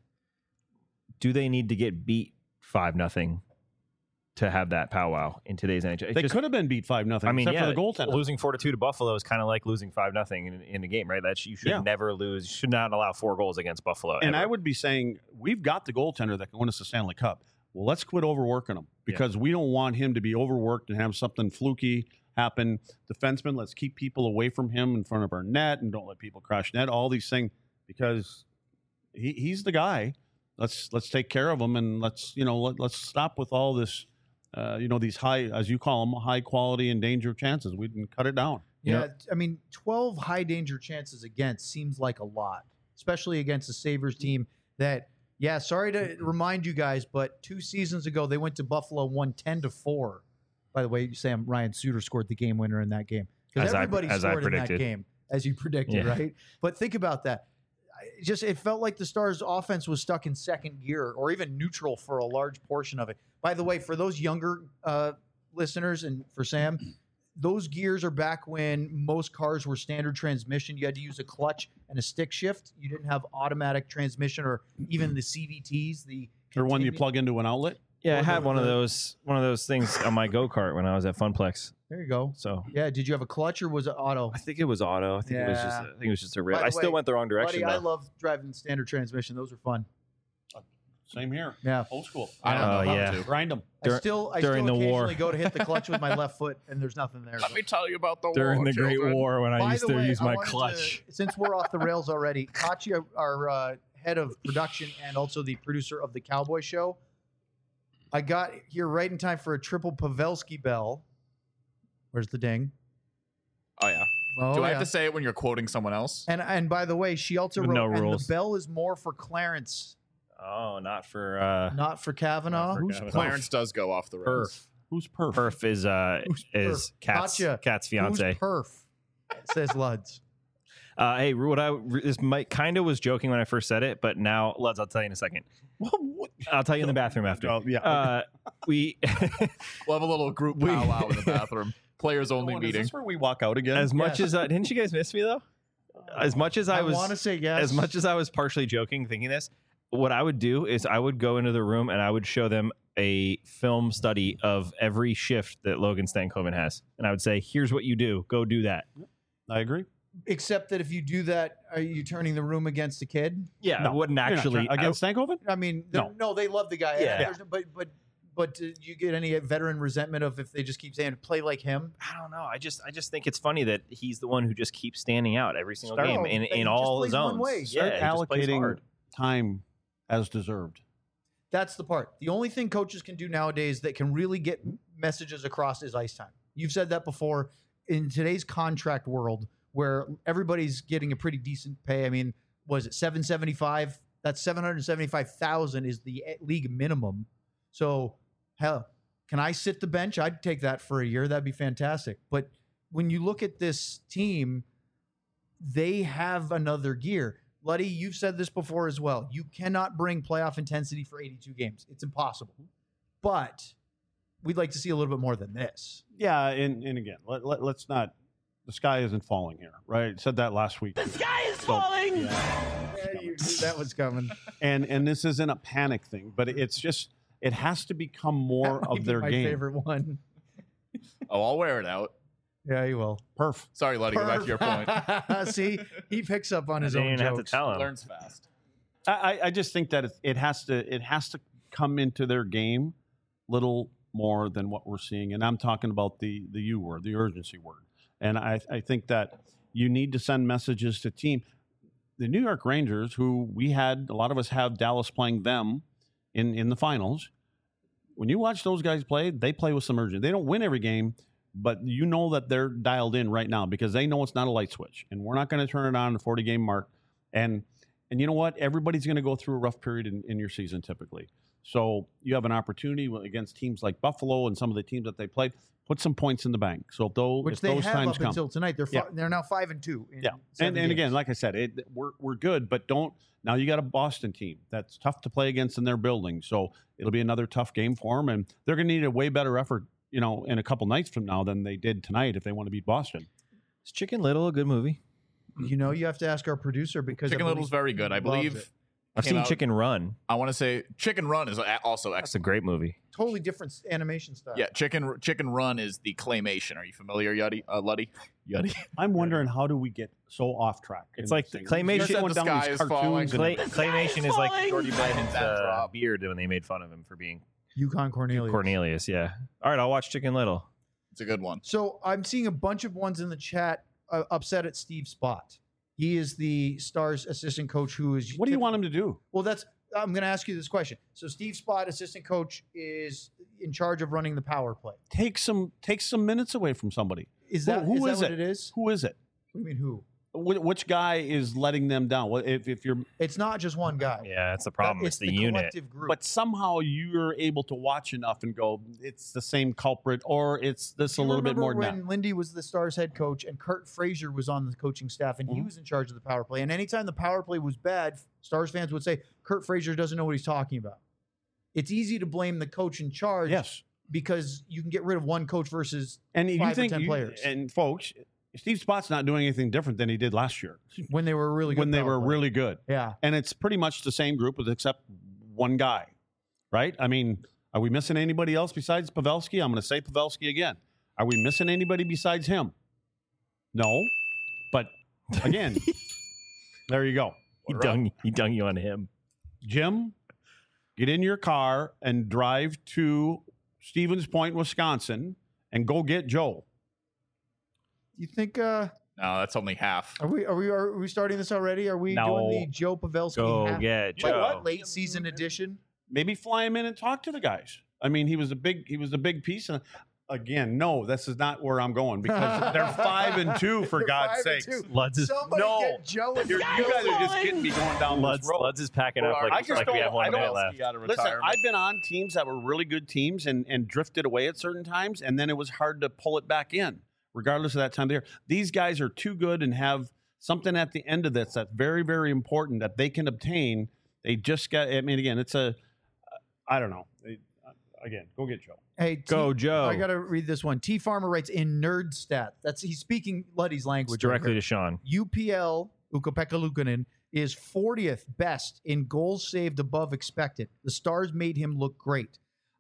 do they need to get beat five nothing to have that powwow in today's N H L? It They just- could have been beat five nothing, I mean, except yeah, for the goaltender. losing four to two to Buffalo is kind of like losing five nothing in, in the game, right? That you should Yeah. never lose. You should not allow four goals against Buffalo. And ever. I would be saying, we've got the goaltender that can win us the Stanley Cup. Well, let's quit overworking him because we don't want him to be overworked and have something fluky happen. Defenseman, let's keep people away from him in front of our net and don't let people crash net. All these things because he, he's the guy. Let's let's take care of him and let's you know let, let's stop with all this. Uh, you know these high, as you call them, high quality and danger chances. We can cut it down. Yeah, I mean, twelve high danger chances against seems like a lot, especially against a Sabres team that, yeah, sorry to remind you guys, but two seasons ago they went to Buffalo, won ten to four. By the way, Sam Ryan Suter scored the game winner in that game because As I- everybody as I scored in that predicted. game, as you predicted, Yeah. right? But think about that. I- Just it felt like the Stars' offense was stuck in second gear or even neutral for a large portion of it. By the way, for those younger uh, listeners and for Sam, those gears are back when most cars were standard transmission. You had to use a clutch and a stick shift. You didn't have automatic transmission or even the C V Ts. The Or one you continu- plug into an outlet. Yeah, I Or had the- one of the- those one of those things on my go kart when I was at Funplex. There you go. So Yeah. Did you have a clutch or was it auto? I think it was auto. I think it was just. Yeah. I think it was just a rip. By the I still way, went the wrong direction. Buddy, I though. love driving standard transmission. Those are fun. Same here. Yeah. Old school. I don't know Oh, how yeah. to. Grind them. I Dur- still, I during still the war. occasionally go to hit the clutch with my left foot, and there's nothing there. Let me tell you about the During war, the Great children. War, when I By used the to way, use I my wanted to- clutch. since we're off the rails already, Kachi, our uh, head of production and also the producer of the Cowboy Show, I got here right in time for a triple Pavelski bell. Where's the ding? Oh yeah. Oh, Do I yeah. have to say it when you're quoting someone else? And and by the way, she also With wrote, no and rules. the bell is more for Clarence, Oh, not for uh, not for Kavanaugh. Not for Who's Kavanaugh. Clarence does go off the rails. Perf. Who's perf? Perf is uh Who's is Perf? Kat's Gotcha. Kat's Who's fiance. perf? Says Luds. Uh, hey, what I this might kind of was joking when I first said it, but now let's. I'll tell you in a second. What? What? I'll tell you in the bathroom after. Oh, yeah. Uh, we We'll have a little group We- powwow in the bathroom. Players only Oh, is meeting. this where we walk out again? as much Yes. as uh, didn't you guys miss me though? As much as I, I was want to say yes. as much as I was partially joking, thinking this, what I would do is I would go into the room and I would show them a film study of every shift that Logan Stankoven has, and I would say, "Here's what you do. Go do that." I agree. Except that if you do that, are you turning the room against a kid? Yeah, No, I wouldn't You're not actually. trying- against Stankoven? I mean, they're- No. no, they love the guy. Yeah. There's no- but but but do you get any veteran resentment of if they just keep saying play like him? I, I don't know. I just I just think it's funny that he's the one who just keeps standing out every single Start- game No, in, and he in just all plays one zones. way. Yeah, Start he just plays allocating hard. time as deserved. That's the part. The only thing coaches can do nowadays that can really get messages across is ice time. You've said that before. In today's contract world, where everybody's getting a pretty decent pay, I mean, was it seven seventy five? That's seven hundred seventy five thousand is the league minimum. So hell, can I sit the bench? I'd take that for a year. That'd be fantastic. But when you look at this team, they have another gear. Luddy, you've said this before as well. You cannot bring playoff intensity for eighty-two games. It's impossible. But we'd like to see a little bit more than this. Yeah, and, and again, let, let, let's not. The sky isn't falling here, right? Said that last week. The sky is falling. Yeah, you knew that was coming. And and this isn't a panic thing, but it's just it has to become more That might of be their my game. favorite one. Oh, I'll wear it out. Yeah, you will. Perf. Sorry, Luddy, go back to your point. See, he picks up on his I own didn't have to jokes. tell him. Learns fast. I, I- I just think that it, it has to it has to come into their game little more than what we're seeing, and I'm talking about the the U word, the urgency word. And I, I think that you need to send messages to team. The New York Rangers, who we had a lot of us have Dallas playing them in in the finals. When you watch those guys play, they play with some urgency. They don't win every game, but you know that they're dialed in right now because they know it's not a light switch, and we're not going to turn it on the forty game mark. And and you know what? Everybody's going to go through a rough period in, in your season typically. So you have an opportunity against teams like Buffalo and some of the teams that they played. Put some points in the bank. So if those, Which if they those have times up come, until tonight. They're fi- Yeah. they're now five and two. In yeah, seven and, and again, games. like I said, it, we're we're good, but don't now. You got a Boston team that's tough to play against in their building, so it'll be another tough game for them, and they're going to need a way better effort, you know, in a couple nights from now than they did tonight if they want to beat Boston. Is Chicken Little a good movie? you know, you have to ask our producer because I Chicken believe Little's very good. I he loves believe. it. I've Came seen out- Chicken Run. I want to say Chicken Run is a- also That's a excellent. great movie. Totally different animation style. Yeah, Chicken Chicken Run is the claymation. Are you familiar, Yuddy? Uh, Luddy? Yuddy? I'm wondering how do we get so off track? in It's like this the thing? claymation- You're going The down sky these is falling. cartoons Clay, and- claymation is like Jordy That Biden's uh, drop. beard when they made fun of him for being Yukon Cornelius. Cornelius. Yeah. All right, I'll watch Chicken Little. It's a good one. So I'm seeing a bunch of ones in the chat uh, upset at Steve Spott. He is the Stars assistant coach who is. What do you want him to do? Well, that's. I'm going to ask you this question. So Steve Spott, assistant coach, is in charge of running the power play. Take some take some minutes away from somebody. Is Who- that who is that is what it? it is? Who is it? What do you mean who? Wh- Which guy is letting them down? What if, if you're It's not just one guy. Yeah, that's the problem. It's It's, the, unit. collective group. but somehow you're able to watch enough and go, it's the same culprit, or it's this Do a you little bit remember more than when that. Lindy was the Stars head coach and Kurt Frazier was on the coaching staff and he Mhm. was in charge of the power play. And anytime the power play was bad, Stars fans would say Kurt Frazier doesn't know what he's talking about. It's easy to blame the coach in charge. Yes, because you can get rid of one coach versus And you five or think ten you- players. and folks, Steve Spott's not doing anything different than he did last year when they were really good. when they power were play. really good. Yeah. And it's pretty much the same group with except one guy, right? I mean, are we missing anybody else besides Pavelski? I'm going to say Pavelski again. Are we missing anybody besides him? No. But again, there you go. He dung, he dung you on him. Jim, get in your car and drive to Stevens Point, Wisconsin, and go get Joe. You think? uh No, that's only half. Are we? Are we? Are we starting this already? Are we No. doing the Joe Pavelski Go half- get like Joe. what, late season edition? Maybe fly him in and talk to the guys. I mean, he was a big he was a big piece. And again, no, this is not where I'm going because they're five and two for They're God's five and sakes. two. Luds is, Somebody No. get Joe. in You're, the you guys building. are just getting me going down Luds, this road. Luds is packing up Well, like, I like just we don't- have one I minute don't- left. Out of Listen, retirement. I've been on teams that were really good teams and, and drifted away at certain times, and then it was hard to pull it back in, regardless of that time of the year. These guys are too good and have something at the end of this that's very, very important that they can obtain. They just got, I mean, again, it's a, I don't know. They- Again, go get Joe. Hey, T- Go, Joe. I gotta read this one. T Farmer writes in Nerd Stat. That's he's speaking Luddy's It's language. directly right to Sean. here. U P L Ukko-Pekka Luukkonen is fortieth best in goals saved above expected. The Stars made him look great.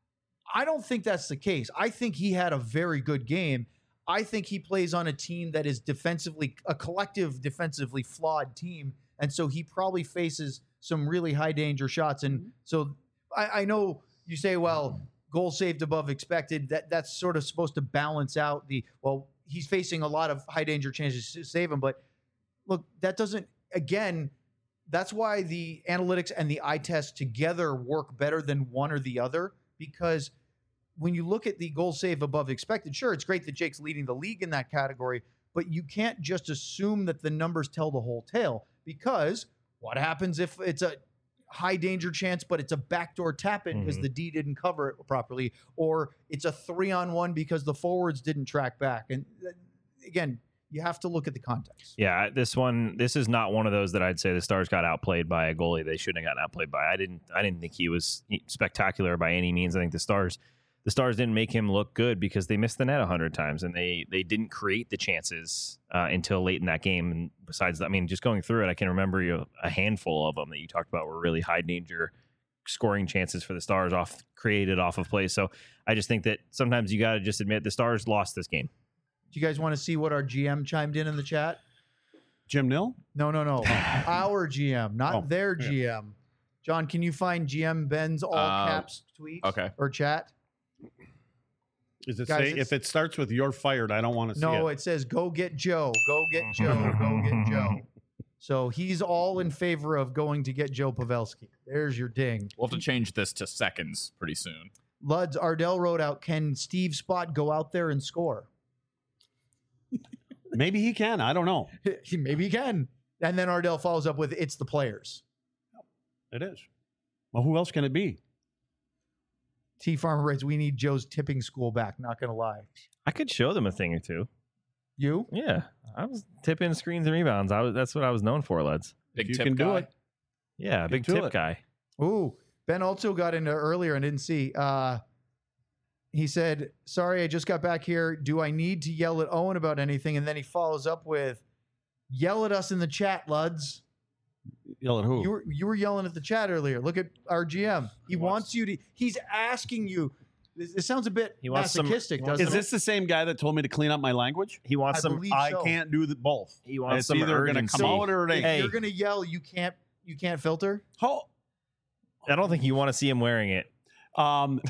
I don't think that's the case. I think he had a very good game. I think he plays on a team that is defensively a collective defensively flawed team, and so he probably faces some really high danger shots. And so I, I know you say, well, goals saved above expected. That that's sort of supposed to balance out the well. He's facing a lot of high danger chances to save him, but look, that doesn't. Again, that's why the analytics and the eye test together work better than one or the other, because when you look at the goal save above expected, sure, it's great that Jake's leading the league in that category, but you can't just assume that the numbers tell the whole tale, because what happens if it's a high danger chance, but it's a backdoor tap in because Mhm. the D didn't cover it properly, or it's a three on one because the forwards didn't track back. And uh, again, you have to look at the context. Yeah, this one, this is not one of those that I'd say the Stars got outplayed by a goalie they shouldn't have gotten outplayed by. I didn't, I didn't think he was spectacular by any means. I think the Stars, the Stars didn't make him look good because they missed the net a hundred times and they they didn't create the chances uh, until late in that game. And besides that, I mean, just going through it, I can remember you a handful of them that you talked about were really high danger scoring chances for the Stars off created off of plays. So I just think that sometimes you got to just admit the Stars lost this game. Do you guys want to see what our G M chimed in in the chat? Jim Nill? No, no, no. Our G M, not Oh, their yeah. G M. John, can you find G M Ben's all Uh, caps tweet okay. or chat? Is it Guys, say it's- if it starts with "you're fired"? I don't want to see No, it. it says go get Joe, go get Joe, go get Joe. So he's all in favor of going to get Joe Pavelski. There's your ding. We'll have to change this to seconds pretty soon. Luds Ardell wrote out, can Steve Spott go out there and score? Maybe he can. I don't know. Maybe he can. And then Ardell follows up with, it's the players. It is. Well, who else can it be? T Farmer writes, we need Joe's tipping school back. Not going to lie. I could show them a thing or two. You? Yeah, I was tipping screens and rebounds. I was that's what I was known for, Luds. Big you tip can do guy. it. Yeah, Get big to tip it. guy. Ooh, Ben also got into earlier and didn't see. Uh, he said, sorry, I just got back here. Do I need to yell at Owen about anything? And then he follows up with, yell at us in the chat, Luds. Yell at who? You were you were yelling at the chat earlier. Look at our G M. He, He wants, wants- you to, he's asking you. This, this sounds a bit He wants some- masochistic, he doesn't wants- Is this the same guy that told me to clean up my language? He wants I some. believe I so. can't do the both. He wants It's some either going to urgency. come out or it If ain't. Hey. you're gonna yell, you can't you can't filter? How- I don't think you want to see him wearing it. Um,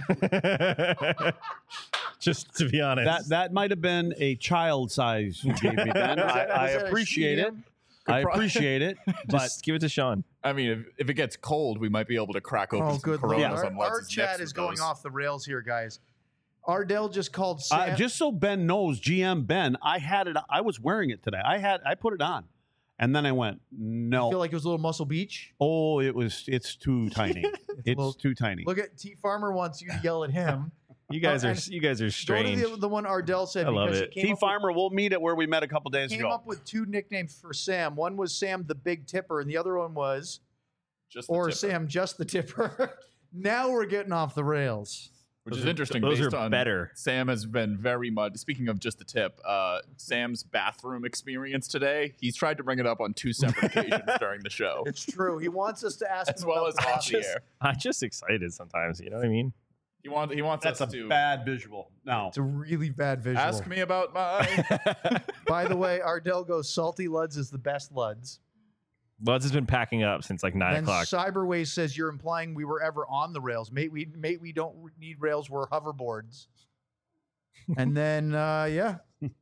Just to be honest, that that might have been a child size you gave me, Ben. Was I, that- I was that a appreciate it. C M? I pro- appreciate it. But just give it to Sean. I mean, if, if it gets cold, we might be able to crack open Oh, some good lord. Coronas Our, on our Lutz's chat nips is with going those. off the rails here, guys. Ardell just called Sam. uh, just so Ben knows, G M Ben, I had it. I was wearing it today. I had. I put it on, and then I went, I no. feel like it was a little Muscle Beach. Oh, it was. It's too tiny. It's little- too tiny. Look at T Farmer wants you to yell at him. You guys Oh, are and you guys are Go strange. to the, the one Ardell said I love because it. he came, T up, Farmer, we'll meet at where we met a couple days with, came ago. up with two nicknames for Sam. One was Sam the Big Tipper, and the other one was, Just the or tipper. Sam just the Tipper. Now we're getting off the rails. Which Those is are- interesting. those based are on better. Sam has been very much. Speaking of just the tip, uh, Sam's bathroom experience today. He's tried to bring it up on two separate occasions during the show, It's true. He wants us to ask as him well about as the off the matches. air. I'm just excited sometimes. You know what I mean? He wants. He wants That's a us to bad visual. No. It's a really bad visual. ask me about my. By the way, Ardell goes, Salty Luds is the best Luds. Luds has been packing up since like nine Then o'clock. Cyberways says you're implying we were ever on the rails. Mate, we mate, we don't need rails. We're hoverboards. And then, uh, yeah.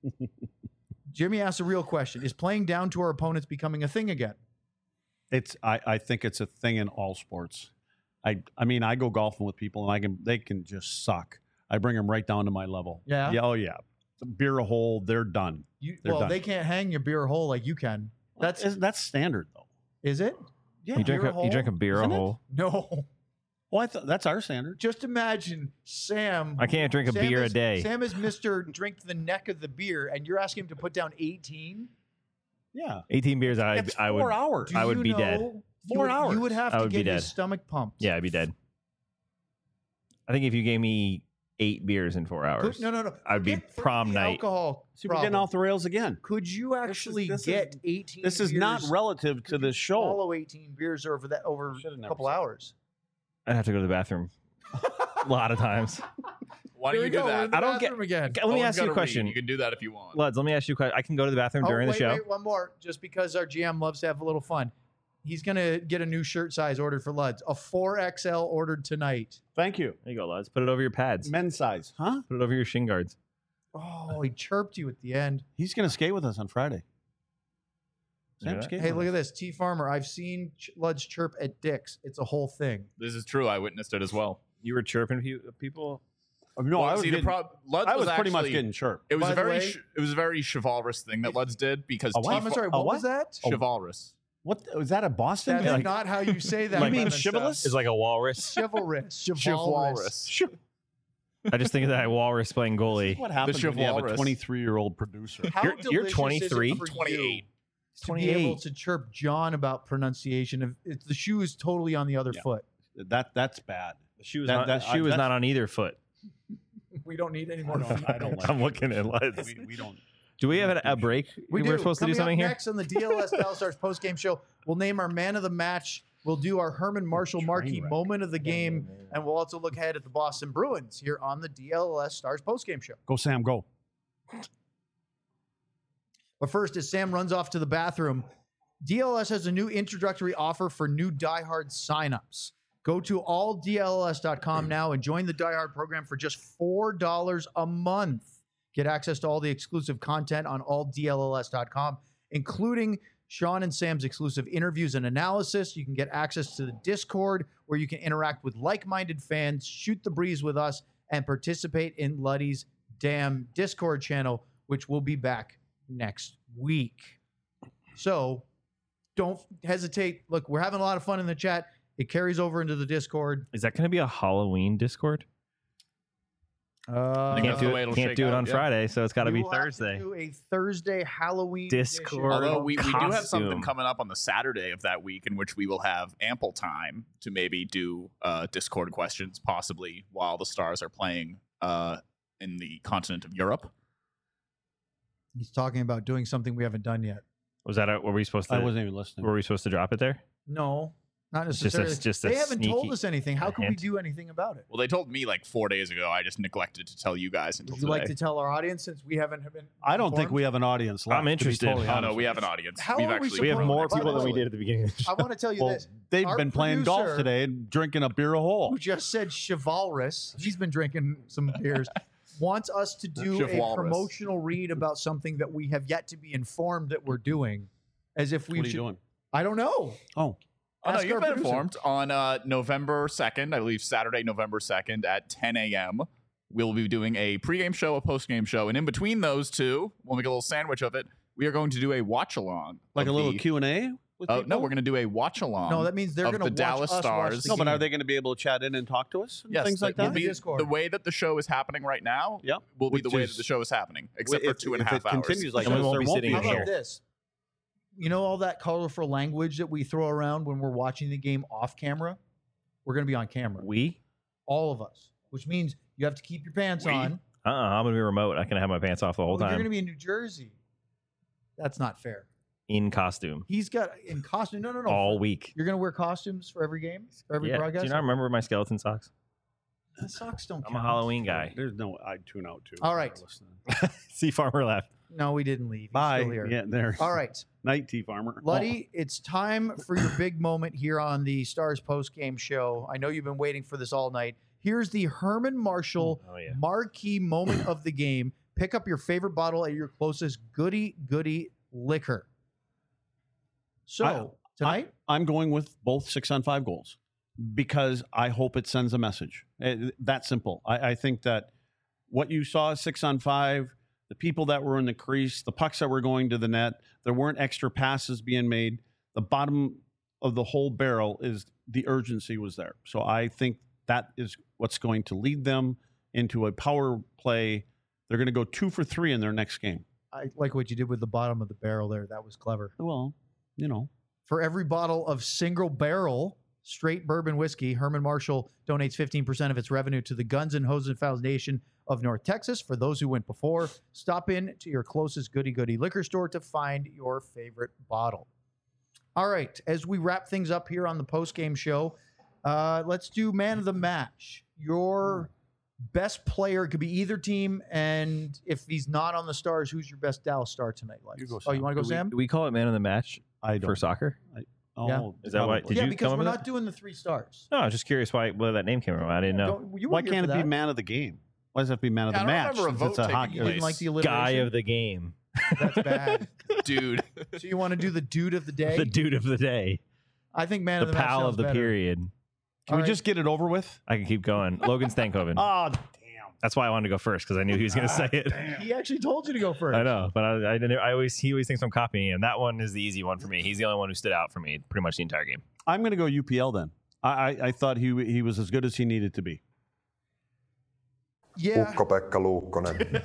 Jimmy asked a real question. Is playing down to our opponents becoming a thing again? It's I, I think it's a thing in all sports. I I mean I go golfing with people and I can they can just suck. I bring them right down to my level. Yeah? Yeah. Oh yeah. Beer a hole, they're done. You, They're well, done. they can't hang your beer hole like you can. That's That's that's standard though. is it? Yeah. you drink beer a, hole, you drink a beer a isn't it? hole. No. Well, I thought that's our standard. Just imagine Sam. I can't drink a Sam beer is, a day. Sam is Mister Drink the neck of the beer, and you're asking him to put down eighteen. Yeah. eighteen beers, I It's I four would. hours. I would you be dead. know you Four would- hours. You would have I to would be get his dead. stomach pumped. Yeah, I'd be dead. I think if you gave me eight beers in four hours, Could, no, no, no. I'd be Forget- forget prom the night. Alcohol. See, we're getting problem. off the rails again. Could you actually this is- get eighteen? This is not beers- relative to could you this show. Swallow eighteen beers over that over Should've a never couple said that. hours. I'd have to go to the bathroom a lot of times. Why Here don't we you do go, we're in that? the I don't get- bathroom again. Okay, let me Owen's ask you a gotta read. question. You can do that if you want. Luds, let me ask you a question. I can go to the bathroom Oh, during wait, the show. wait, one more, just because our G M loves to have a little fun. He's gonna get a new shirt size ordered for Luds. A four X L ordered tonight. Thank you. There you go, Luds. Put it over your pads. Men's size, huh? Put it over your shin guards. Oh, he chirped you at the end. He's going to skate with us on Friday. Look at Sam that. skate Hey, with look us. at this. T Farmer, I've seen Ch- Luds chirp at Dick's. It's a whole thing. This is true. I witnessed it as well. You were chirping pe- people. Oh, no, Well, I was, see, getting, the prob- Luds I was, pretty much actually- getting chirped. It was By a the very, way- ch- it was a very chivalrous thing that Luds did because A what? I'm T- sorry, a what, what? was that? chivalrous. What was that? A Boston? That is thing? not how you say that. You kind mean of stuff. chivalrous? It's like a walrus. Chivalrous. Chivalrous. Chivalrous. I just think of that walrus playing goalie. What happens when you have a chivalrous. twenty-three-year-old producer? How You're- you're delicious twenty-three? Is it for twenty-eight. you to be able twenty-eight. to chirp John about pronunciation? If it's, the shoe is totally on the other Yeah. foot. That that's bad. The shoe is That- not, that- the shoe I- is not on either foot. We don't need any more I don't- feet. I don't like I'm looking at Luds. We, we don't. Do we have a, a break? We We're do. supposed to do Coming something up here. next on the D L S Dallas Stars post game show, we'll name our man of the match. We'll do our Herman Marshall Train marquee wreck. moment of the game, and we'll also look ahead at the Boston Bruins here on the D L S Stars post game show. Go Sam, go. But first, as Sam runs off to the bathroom, D L S has a new introductory offer for new diehard signups. Go to all D L S dot com now and join the diehard program for just four dollars a month. Get access to all the exclusive content on all D L S dot com, including Sean and Sam's exclusive interviews and analysis. You can get access to the Discord where you can interact with like-minded fans, shoot the breeze with us, and participate in Luddy's damn Discord channel, which will be back next week. So don't hesitate. Look, we're having a lot of fun in the chat. It carries over into the Discord. Is that going to be a Halloween Discord? Uh, think Can't that's the do way it. it'll Can't shake do it out, on yeah. Friday, so it's got to we be will have to Thursday. do a Thursday Halloween Discord. edition. Although we, we do have something Costume. coming up on the Saturday of that week in which we will have ample time to maybe do uh, Discord questions, possibly while the Stars are playing uh, in the continent of Europe. He's talking about doing something we haven't done yet. Was that? A, were we supposed to? I wasn't even listening. Were we supposed to drop it there? No, not It's just a- necessarily. just a they haven't told sneaky us anything. How can we hint. do anything about it? Well, they told me like four days ago. I just neglected to tell you guys until Would you today. like to tell our audience since we haven't been? I don't think informed? we have an audience left. I'm to be interested. totally Oh, honest no, we with have you. an audience. How We've are we actually We have Support- more by the people than we way- did at the beginning. Of the show. I want to tell you Well, this. they've Our been playing golf producer- today and drinking a beer a hole. Who just said chivalrous? He's been drinking some beers. Wants us to do a Chivalrous. promotional read about something that we have yet to be informed that we're doing, as if we What are you should. doing? I don't know. Oh, Oh, no, Ask you've our been producer. informed. On uh, November second, I believe Saturday, November second at ten a.m., we'll be doing a pregame show, a postgame show. And in between those two, we'll make a little sandwich of it. We are going to do a watch-along. like of a little the- Q and A with uh, people? No, we're going to do a watch-along. No, that means they're of going to the watch Dallas us watch Stars. the No, but game. are they going to be able to chat in and talk to us? And Yes, things like will that. be Discord. the way that the show is happening right now. Yep. will be Which the way is- that the show is happening, except for If- two and a if half it hours. continues like And we this, won't there be won't sitting be How in a about here. show. this? You know all that colorful language that we throw around when we're watching the game off camera? We're going to be on camera. We? All of us. Which means You have to keep your pants We- on. Uh-uh, I'm gonna be remote. I can have my pants off the whole Well, you're time going to be in New Jersey. That's not fair. in costume He's got in costume. No, no, no. all week. You're going to wear costumes for every game, for every Yeah. Do broadcast. you not remember my skeleton socks? The socks don't I'm count. a Halloween guy. There's no, I'd tune out too. All right. See farmer left. No, we didn't leave. He's Bye. still here. Yeah, there. All right. Night, T Farmer. Luddy, it's time for your big moment here on the Stars post-game show. I know you've been waiting for this all night. Here's the Herman Marshall Oh yeah. marquee moment of the game. Pick up your favorite bottle at your closest goody goody liquor. So I- tonight, I'm going with both six on five goals because I hope it sends a message. Eh, That simple. I, I think that what you saw six on five, the people that were in the crease, the pucks that were going to the net, there weren't extra passes being made. The bottom of the whole barrel is the urgency was there. So I think that is what's going to lead them into a power play. They're going to go two for three in their next game. I like what you did with the bottom of the barrel there. That was clever. Well, you know, For every bottle of single barrel straight bourbon whiskey, Herman Marshall donates fifteen percent of its revenue to the Guns and Hosen Foundation of North Texas. For those who went before, stop in to your closest goody goody liquor store to find your favorite bottle. All right, as we wrap things up here on the post-game show, uh, let's do man of the match. Your best player could be either team, and if he's not on the Stars, who's your best Dallas Star tonight, Lex? You go, Oh, you Sam. want to go, Do we, Sam? do we call it man of the match I don't. for soccer? Oh, Yeah. Is that why- probably. did yeah, you because come we're up with not doing the three stars. No, I was just curious why where that name came from. I didn't know. Don't- you Why weren't here can't for it be that. man of the game? Why does it have to be man of Yeah, the I don't match? remember a since vote it's a taking hockey You didn't place. like the Guy alliteration? of the game. That's bad. Dude. So you want to do the dude of the day? The dude of the day. I think man The of the match pal sounds of the better. period. Can All we right. just get it over with? I can keep going. Logan Stankoven. Oh, damn. That's why I wanted to go first because I knew he was going to say it. He actually told you to go first. I know, but I, I, didn't, I always he always thinks I'm copying him. That one is the easy one for me. He's the only one who stood out for me pretty much the entire game. I'm going to go U P L then. I, I, I thought he he was as good as he needed to be. Yeah. Ukko-Pekka Luukkonen.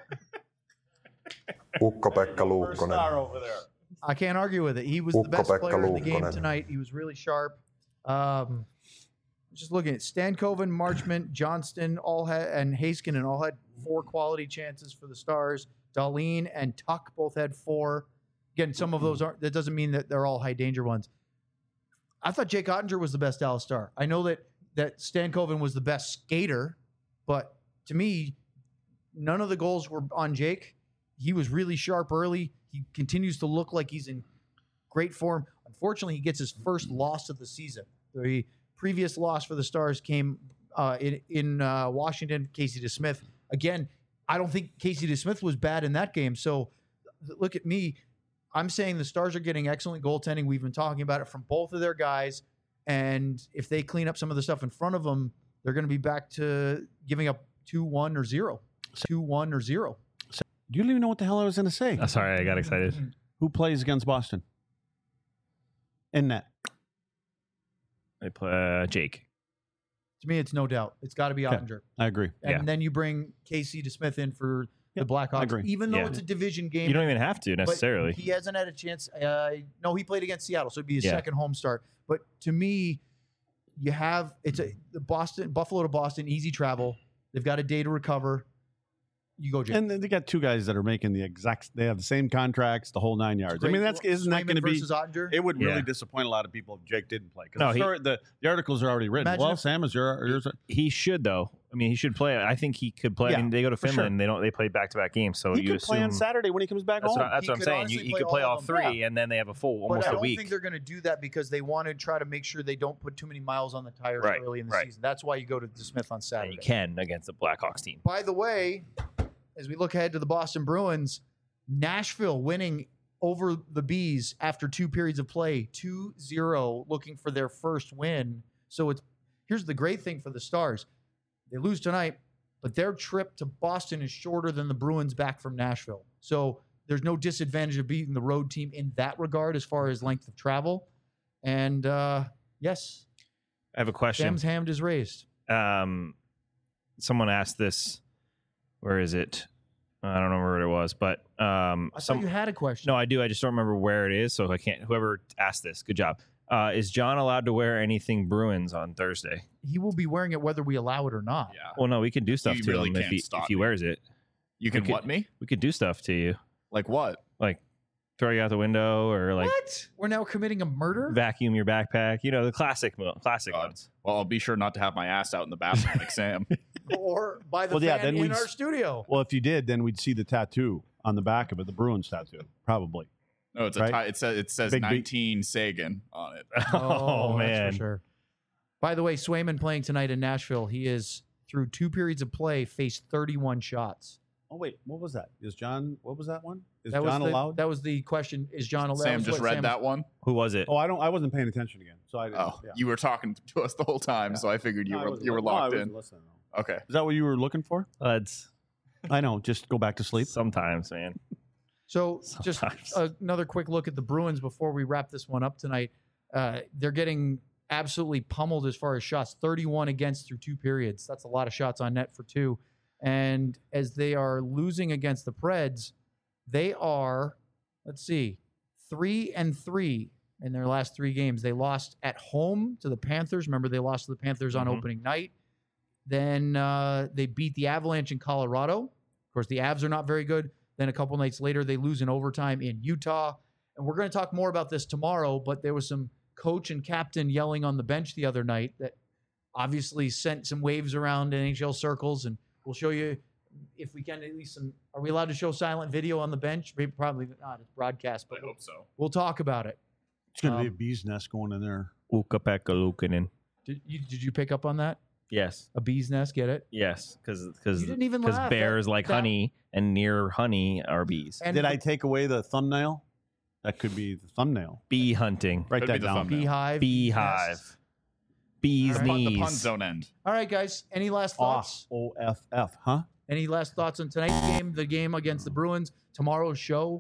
Ukko-Pekka Luukkonen. over there. I can't argue with it. He was the best Ukko-Pekka player in the game Luukkonen. tonight. He was really sharp. Um, just looking at Stankoven, Marchment, Johnston, all had, and Haskinen all had four quality chances for the Stars. Darlene and Tuck both had four. Again, some of those aren't. That doesn't mean that they're all high danger ones. I thought Jake Ottinger was the best Dallas Star. I know that that Stankoven was the best skater, but to me, none of the goals were on Jake. He was really sharp early. He continues to look like he's in great form. Unfortunately, he gets his first loss of the season. The previous loss for the Stars came uh, in in uh, Washington. Casey DeSmith. Again, I don't think Casey DeSmith was bad in that game. So th- look at me. I'm saying the Stars are getting excellent goaltending. We've been talking about it from both of their guys. And if they clean up some of the stuff in front of them, they're going to be back to giving up two one or zero. two one or zero. You don't even know what the hell I was going to say. Oh, sorry, I got excited. Who plays against Boston? In net. I play uh, Jake. To me, it's no doubt. It's got to be Okay. Ottinger. I agree. And Yeah. then you bring Casey DeSmith in for Yeah, the Blackhawks. I agree. Even though Yeah. it's a division game. You don't even have to but necessarily. He hasn't had a chance. Uh, no, he played against Seattle, so it'd be his Yeah. second home start. But to me, you have it's a the Boston Buffalo to Boston, easy travel. They've got a day to recover. You go, Jake. And then they got two guys that are making the exact. They have the same contracts, the whole nine yards. I mean, that's isn't that Swayman going to be? versus Ottinger? It would Yeah. really disappoint a lot of people if Jake didn't play. No, Because he- the, the articles are already written. Imagine well, if- Sam, is your yours? He should though. I mean, he should play. I think he could play. Yeah, I mean, they go to for sure. Finland. They don't. They play back to back games. So He you could assume play on Saturday when he comes back That's home. what, that's He what I'm could saying. You, honestly he play could play all all of them. three, and then they have a full But almost I a don't week. think they're going to do that because they want to try to make sure they don't put too many miles on the tires Right, early in the right. season. That's why you go to DeSmith on And Saturday. you can against the Blackhawks team. By the way, as we look ahead to the Boston Bruins, Nashville winning over the Bees after two periods of play, two zero, looking for their first win. So it's here's the great thing for the Stars. They lose tonight, but their trip to Boston is shorter than the Bruins back from Nashville. So there's no disadvantage of beating the road team in that regard as far as length of travel. And uh, yes, I have a question. Sam's hand is raised. Um, someone asked this. Where is it? I don't remember what it was, but um, I some thought you had a question. no, I do. I just don't remember where it is, so I can't. Whoever asked this, good job. Uh, is John allowed to wear anything Bruins on Thursday? He will be wearing it whether we allow it or not. Yeah. Well, no, we can do stuff You to really him if can't he, stop if he me. wears it. You can could- what me? We could do stuff to you, Like what? like throw you out the window or like What? We're now committing a murder? vacuum your backpack. You know, the classic, mo- classic God. ones. Well, I'll be sure not to have my ass out in the bathroom like Sam. Or by the Well, yeah, fan then in we'd our s- studio? Well, if you did, then we'd see the tattoo on the back of it, the Bruins tattoo, probably. No, it's a Right? tie, it says it says Big, big- nineteen Sagan on it. Oh, that's man. for sure. By the way, Swayman playing tonight in Nashville. He is through two periods of play, faced thirty-one shots. Oh wait, what was that? Is John? What was that one? Is That was John the, allowed? That was the question. Is John allowed? Sam was just what read Sam- that one. Who was it? oh, I don't. I wasn't paying attention again, so I didn't. Oh, yeah. you were talking to us the whole time, Yeah. so I figured you No, I were wasn't you were li- no, I locked wasn't in. listening, no. Okay. Is that what you were looking for? Let's I know. Just go back to sleep. sometimes, man. So just Sometimes. another quick look at the Bruins before we wrap this one up tonight. Uh, they're getting absolutely pummeled as far as shots, thirty-one against through two periods. That's a lot of shots on net for two. And as they are losing against the Preds, they are, let's see, three and three in their last three games. They lost at home to the Panthers. Remember, they lost to the Panthers on Mhm. opening night. Then uh, they beat the Avalanche in Colorado. Of course, the Avs are not very good. Then a couple nights later, they lose in overtime in Utah. And we're going to talk more about this tomorrow, but there was some coach and captain yelling on the bench the other night that obviously sent some waves around N H L circles. And we'll show you, if we can, at least some. Are we allowed to show silent video on the bench? Maybe, probably not. It's broadcast, but I hope so. we'll talk about it. It's going to be a Um, bee's nest going in there. Ukko-Pekka Luukkonen. Did you, did you pick up on that? Yes, A bee's nest, get it? yes, because because You didn't even laugh. bears That- like that- honey and near honey are bees. And Did the I take away the thumbnail? That could be the thumbnail. Bee hunting, Write Could be that the down. thumbnail. beehive? beehive, nest? bees All right. The knees. puns don't end. All right, guys. Any last thoughts? O F F, huh? Any last thoughts on tonight's game, the game against the Bruins, tomorrow's show?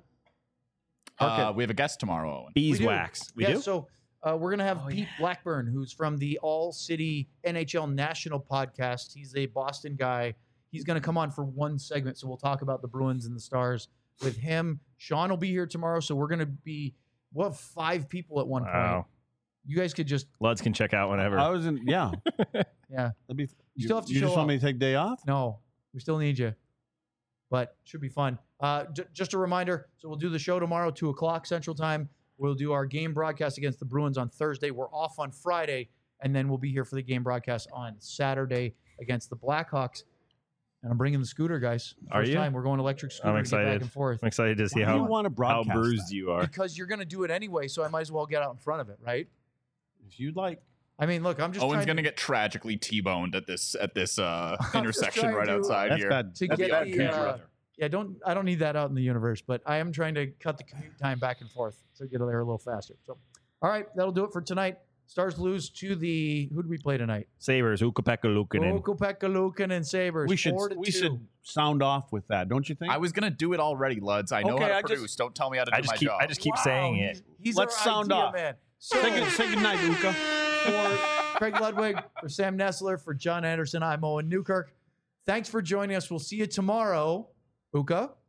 Uh, Okay. we have a guest tomorrow, Owen. Beeswax. We, yeah, do. so uh, we're going to have Oh, Pete Blackburn, who's from the All City N H L National Podcast. He's a Boston guy. He's going to come on for one segment, so we'll talk about the Bruins and the Stars with him. Sean will be here tomorrow, so we're going to be, we'll have five people at one point. Wow. You guys could just, Luds can check out whenever. I was in. Yeah. yeah. That'd be, you, still have to you show just want up. me to take day off? No, we still need you, but should be fun. Uh, j- just a reminder. So we'll do the show tomorrow, two o'clock Central Time. We'll do our game broadcast against the Bruins on Thursday. We're off on Friday, and then we'll be here for the game broadcast on Saturday against the Blackhawks. And I'm bringing the scooter, guys. First Are you? time we're going electric scooter I'm to get back excited. and forth I'm excited to see Why do you how, want to how broadcast bruised that? you are. because you're going to do it anyway. So I might as well get out in front of it, right? If you'd like. I mean, look, I'm just Owen's trying gonna to, get tragically T-boned at this at this uh, just intersection trying right to- outside That's here. bad. to That's get bad the, country uh, right there. Yeah, don't I don't need that out in the universe, but I am trying to cut the commute time back and forth to get there a little faster. So, all right, that'll do it for tonight. Stars lose to the who do we play tonight? Sabres, Ukko-Pekka Luukkonen. Ukko-Pekka Luukkonen and Sabres. We should four to we two. should sound off with that, don't you think? I was gonna do it already, Luds. I know Okay, how to I just- produce. Don't tell me how to do I just my keep job. I just keep Wow, saying he's- it. He's Let's our sound idea off. man. So, say, good, say good night, Luca. for Craig Ludwig, for Sam Nessler, for John Anderson, I'm Owen Newkirk. Thanks for joining us. We'll see you tomorrow. Uka.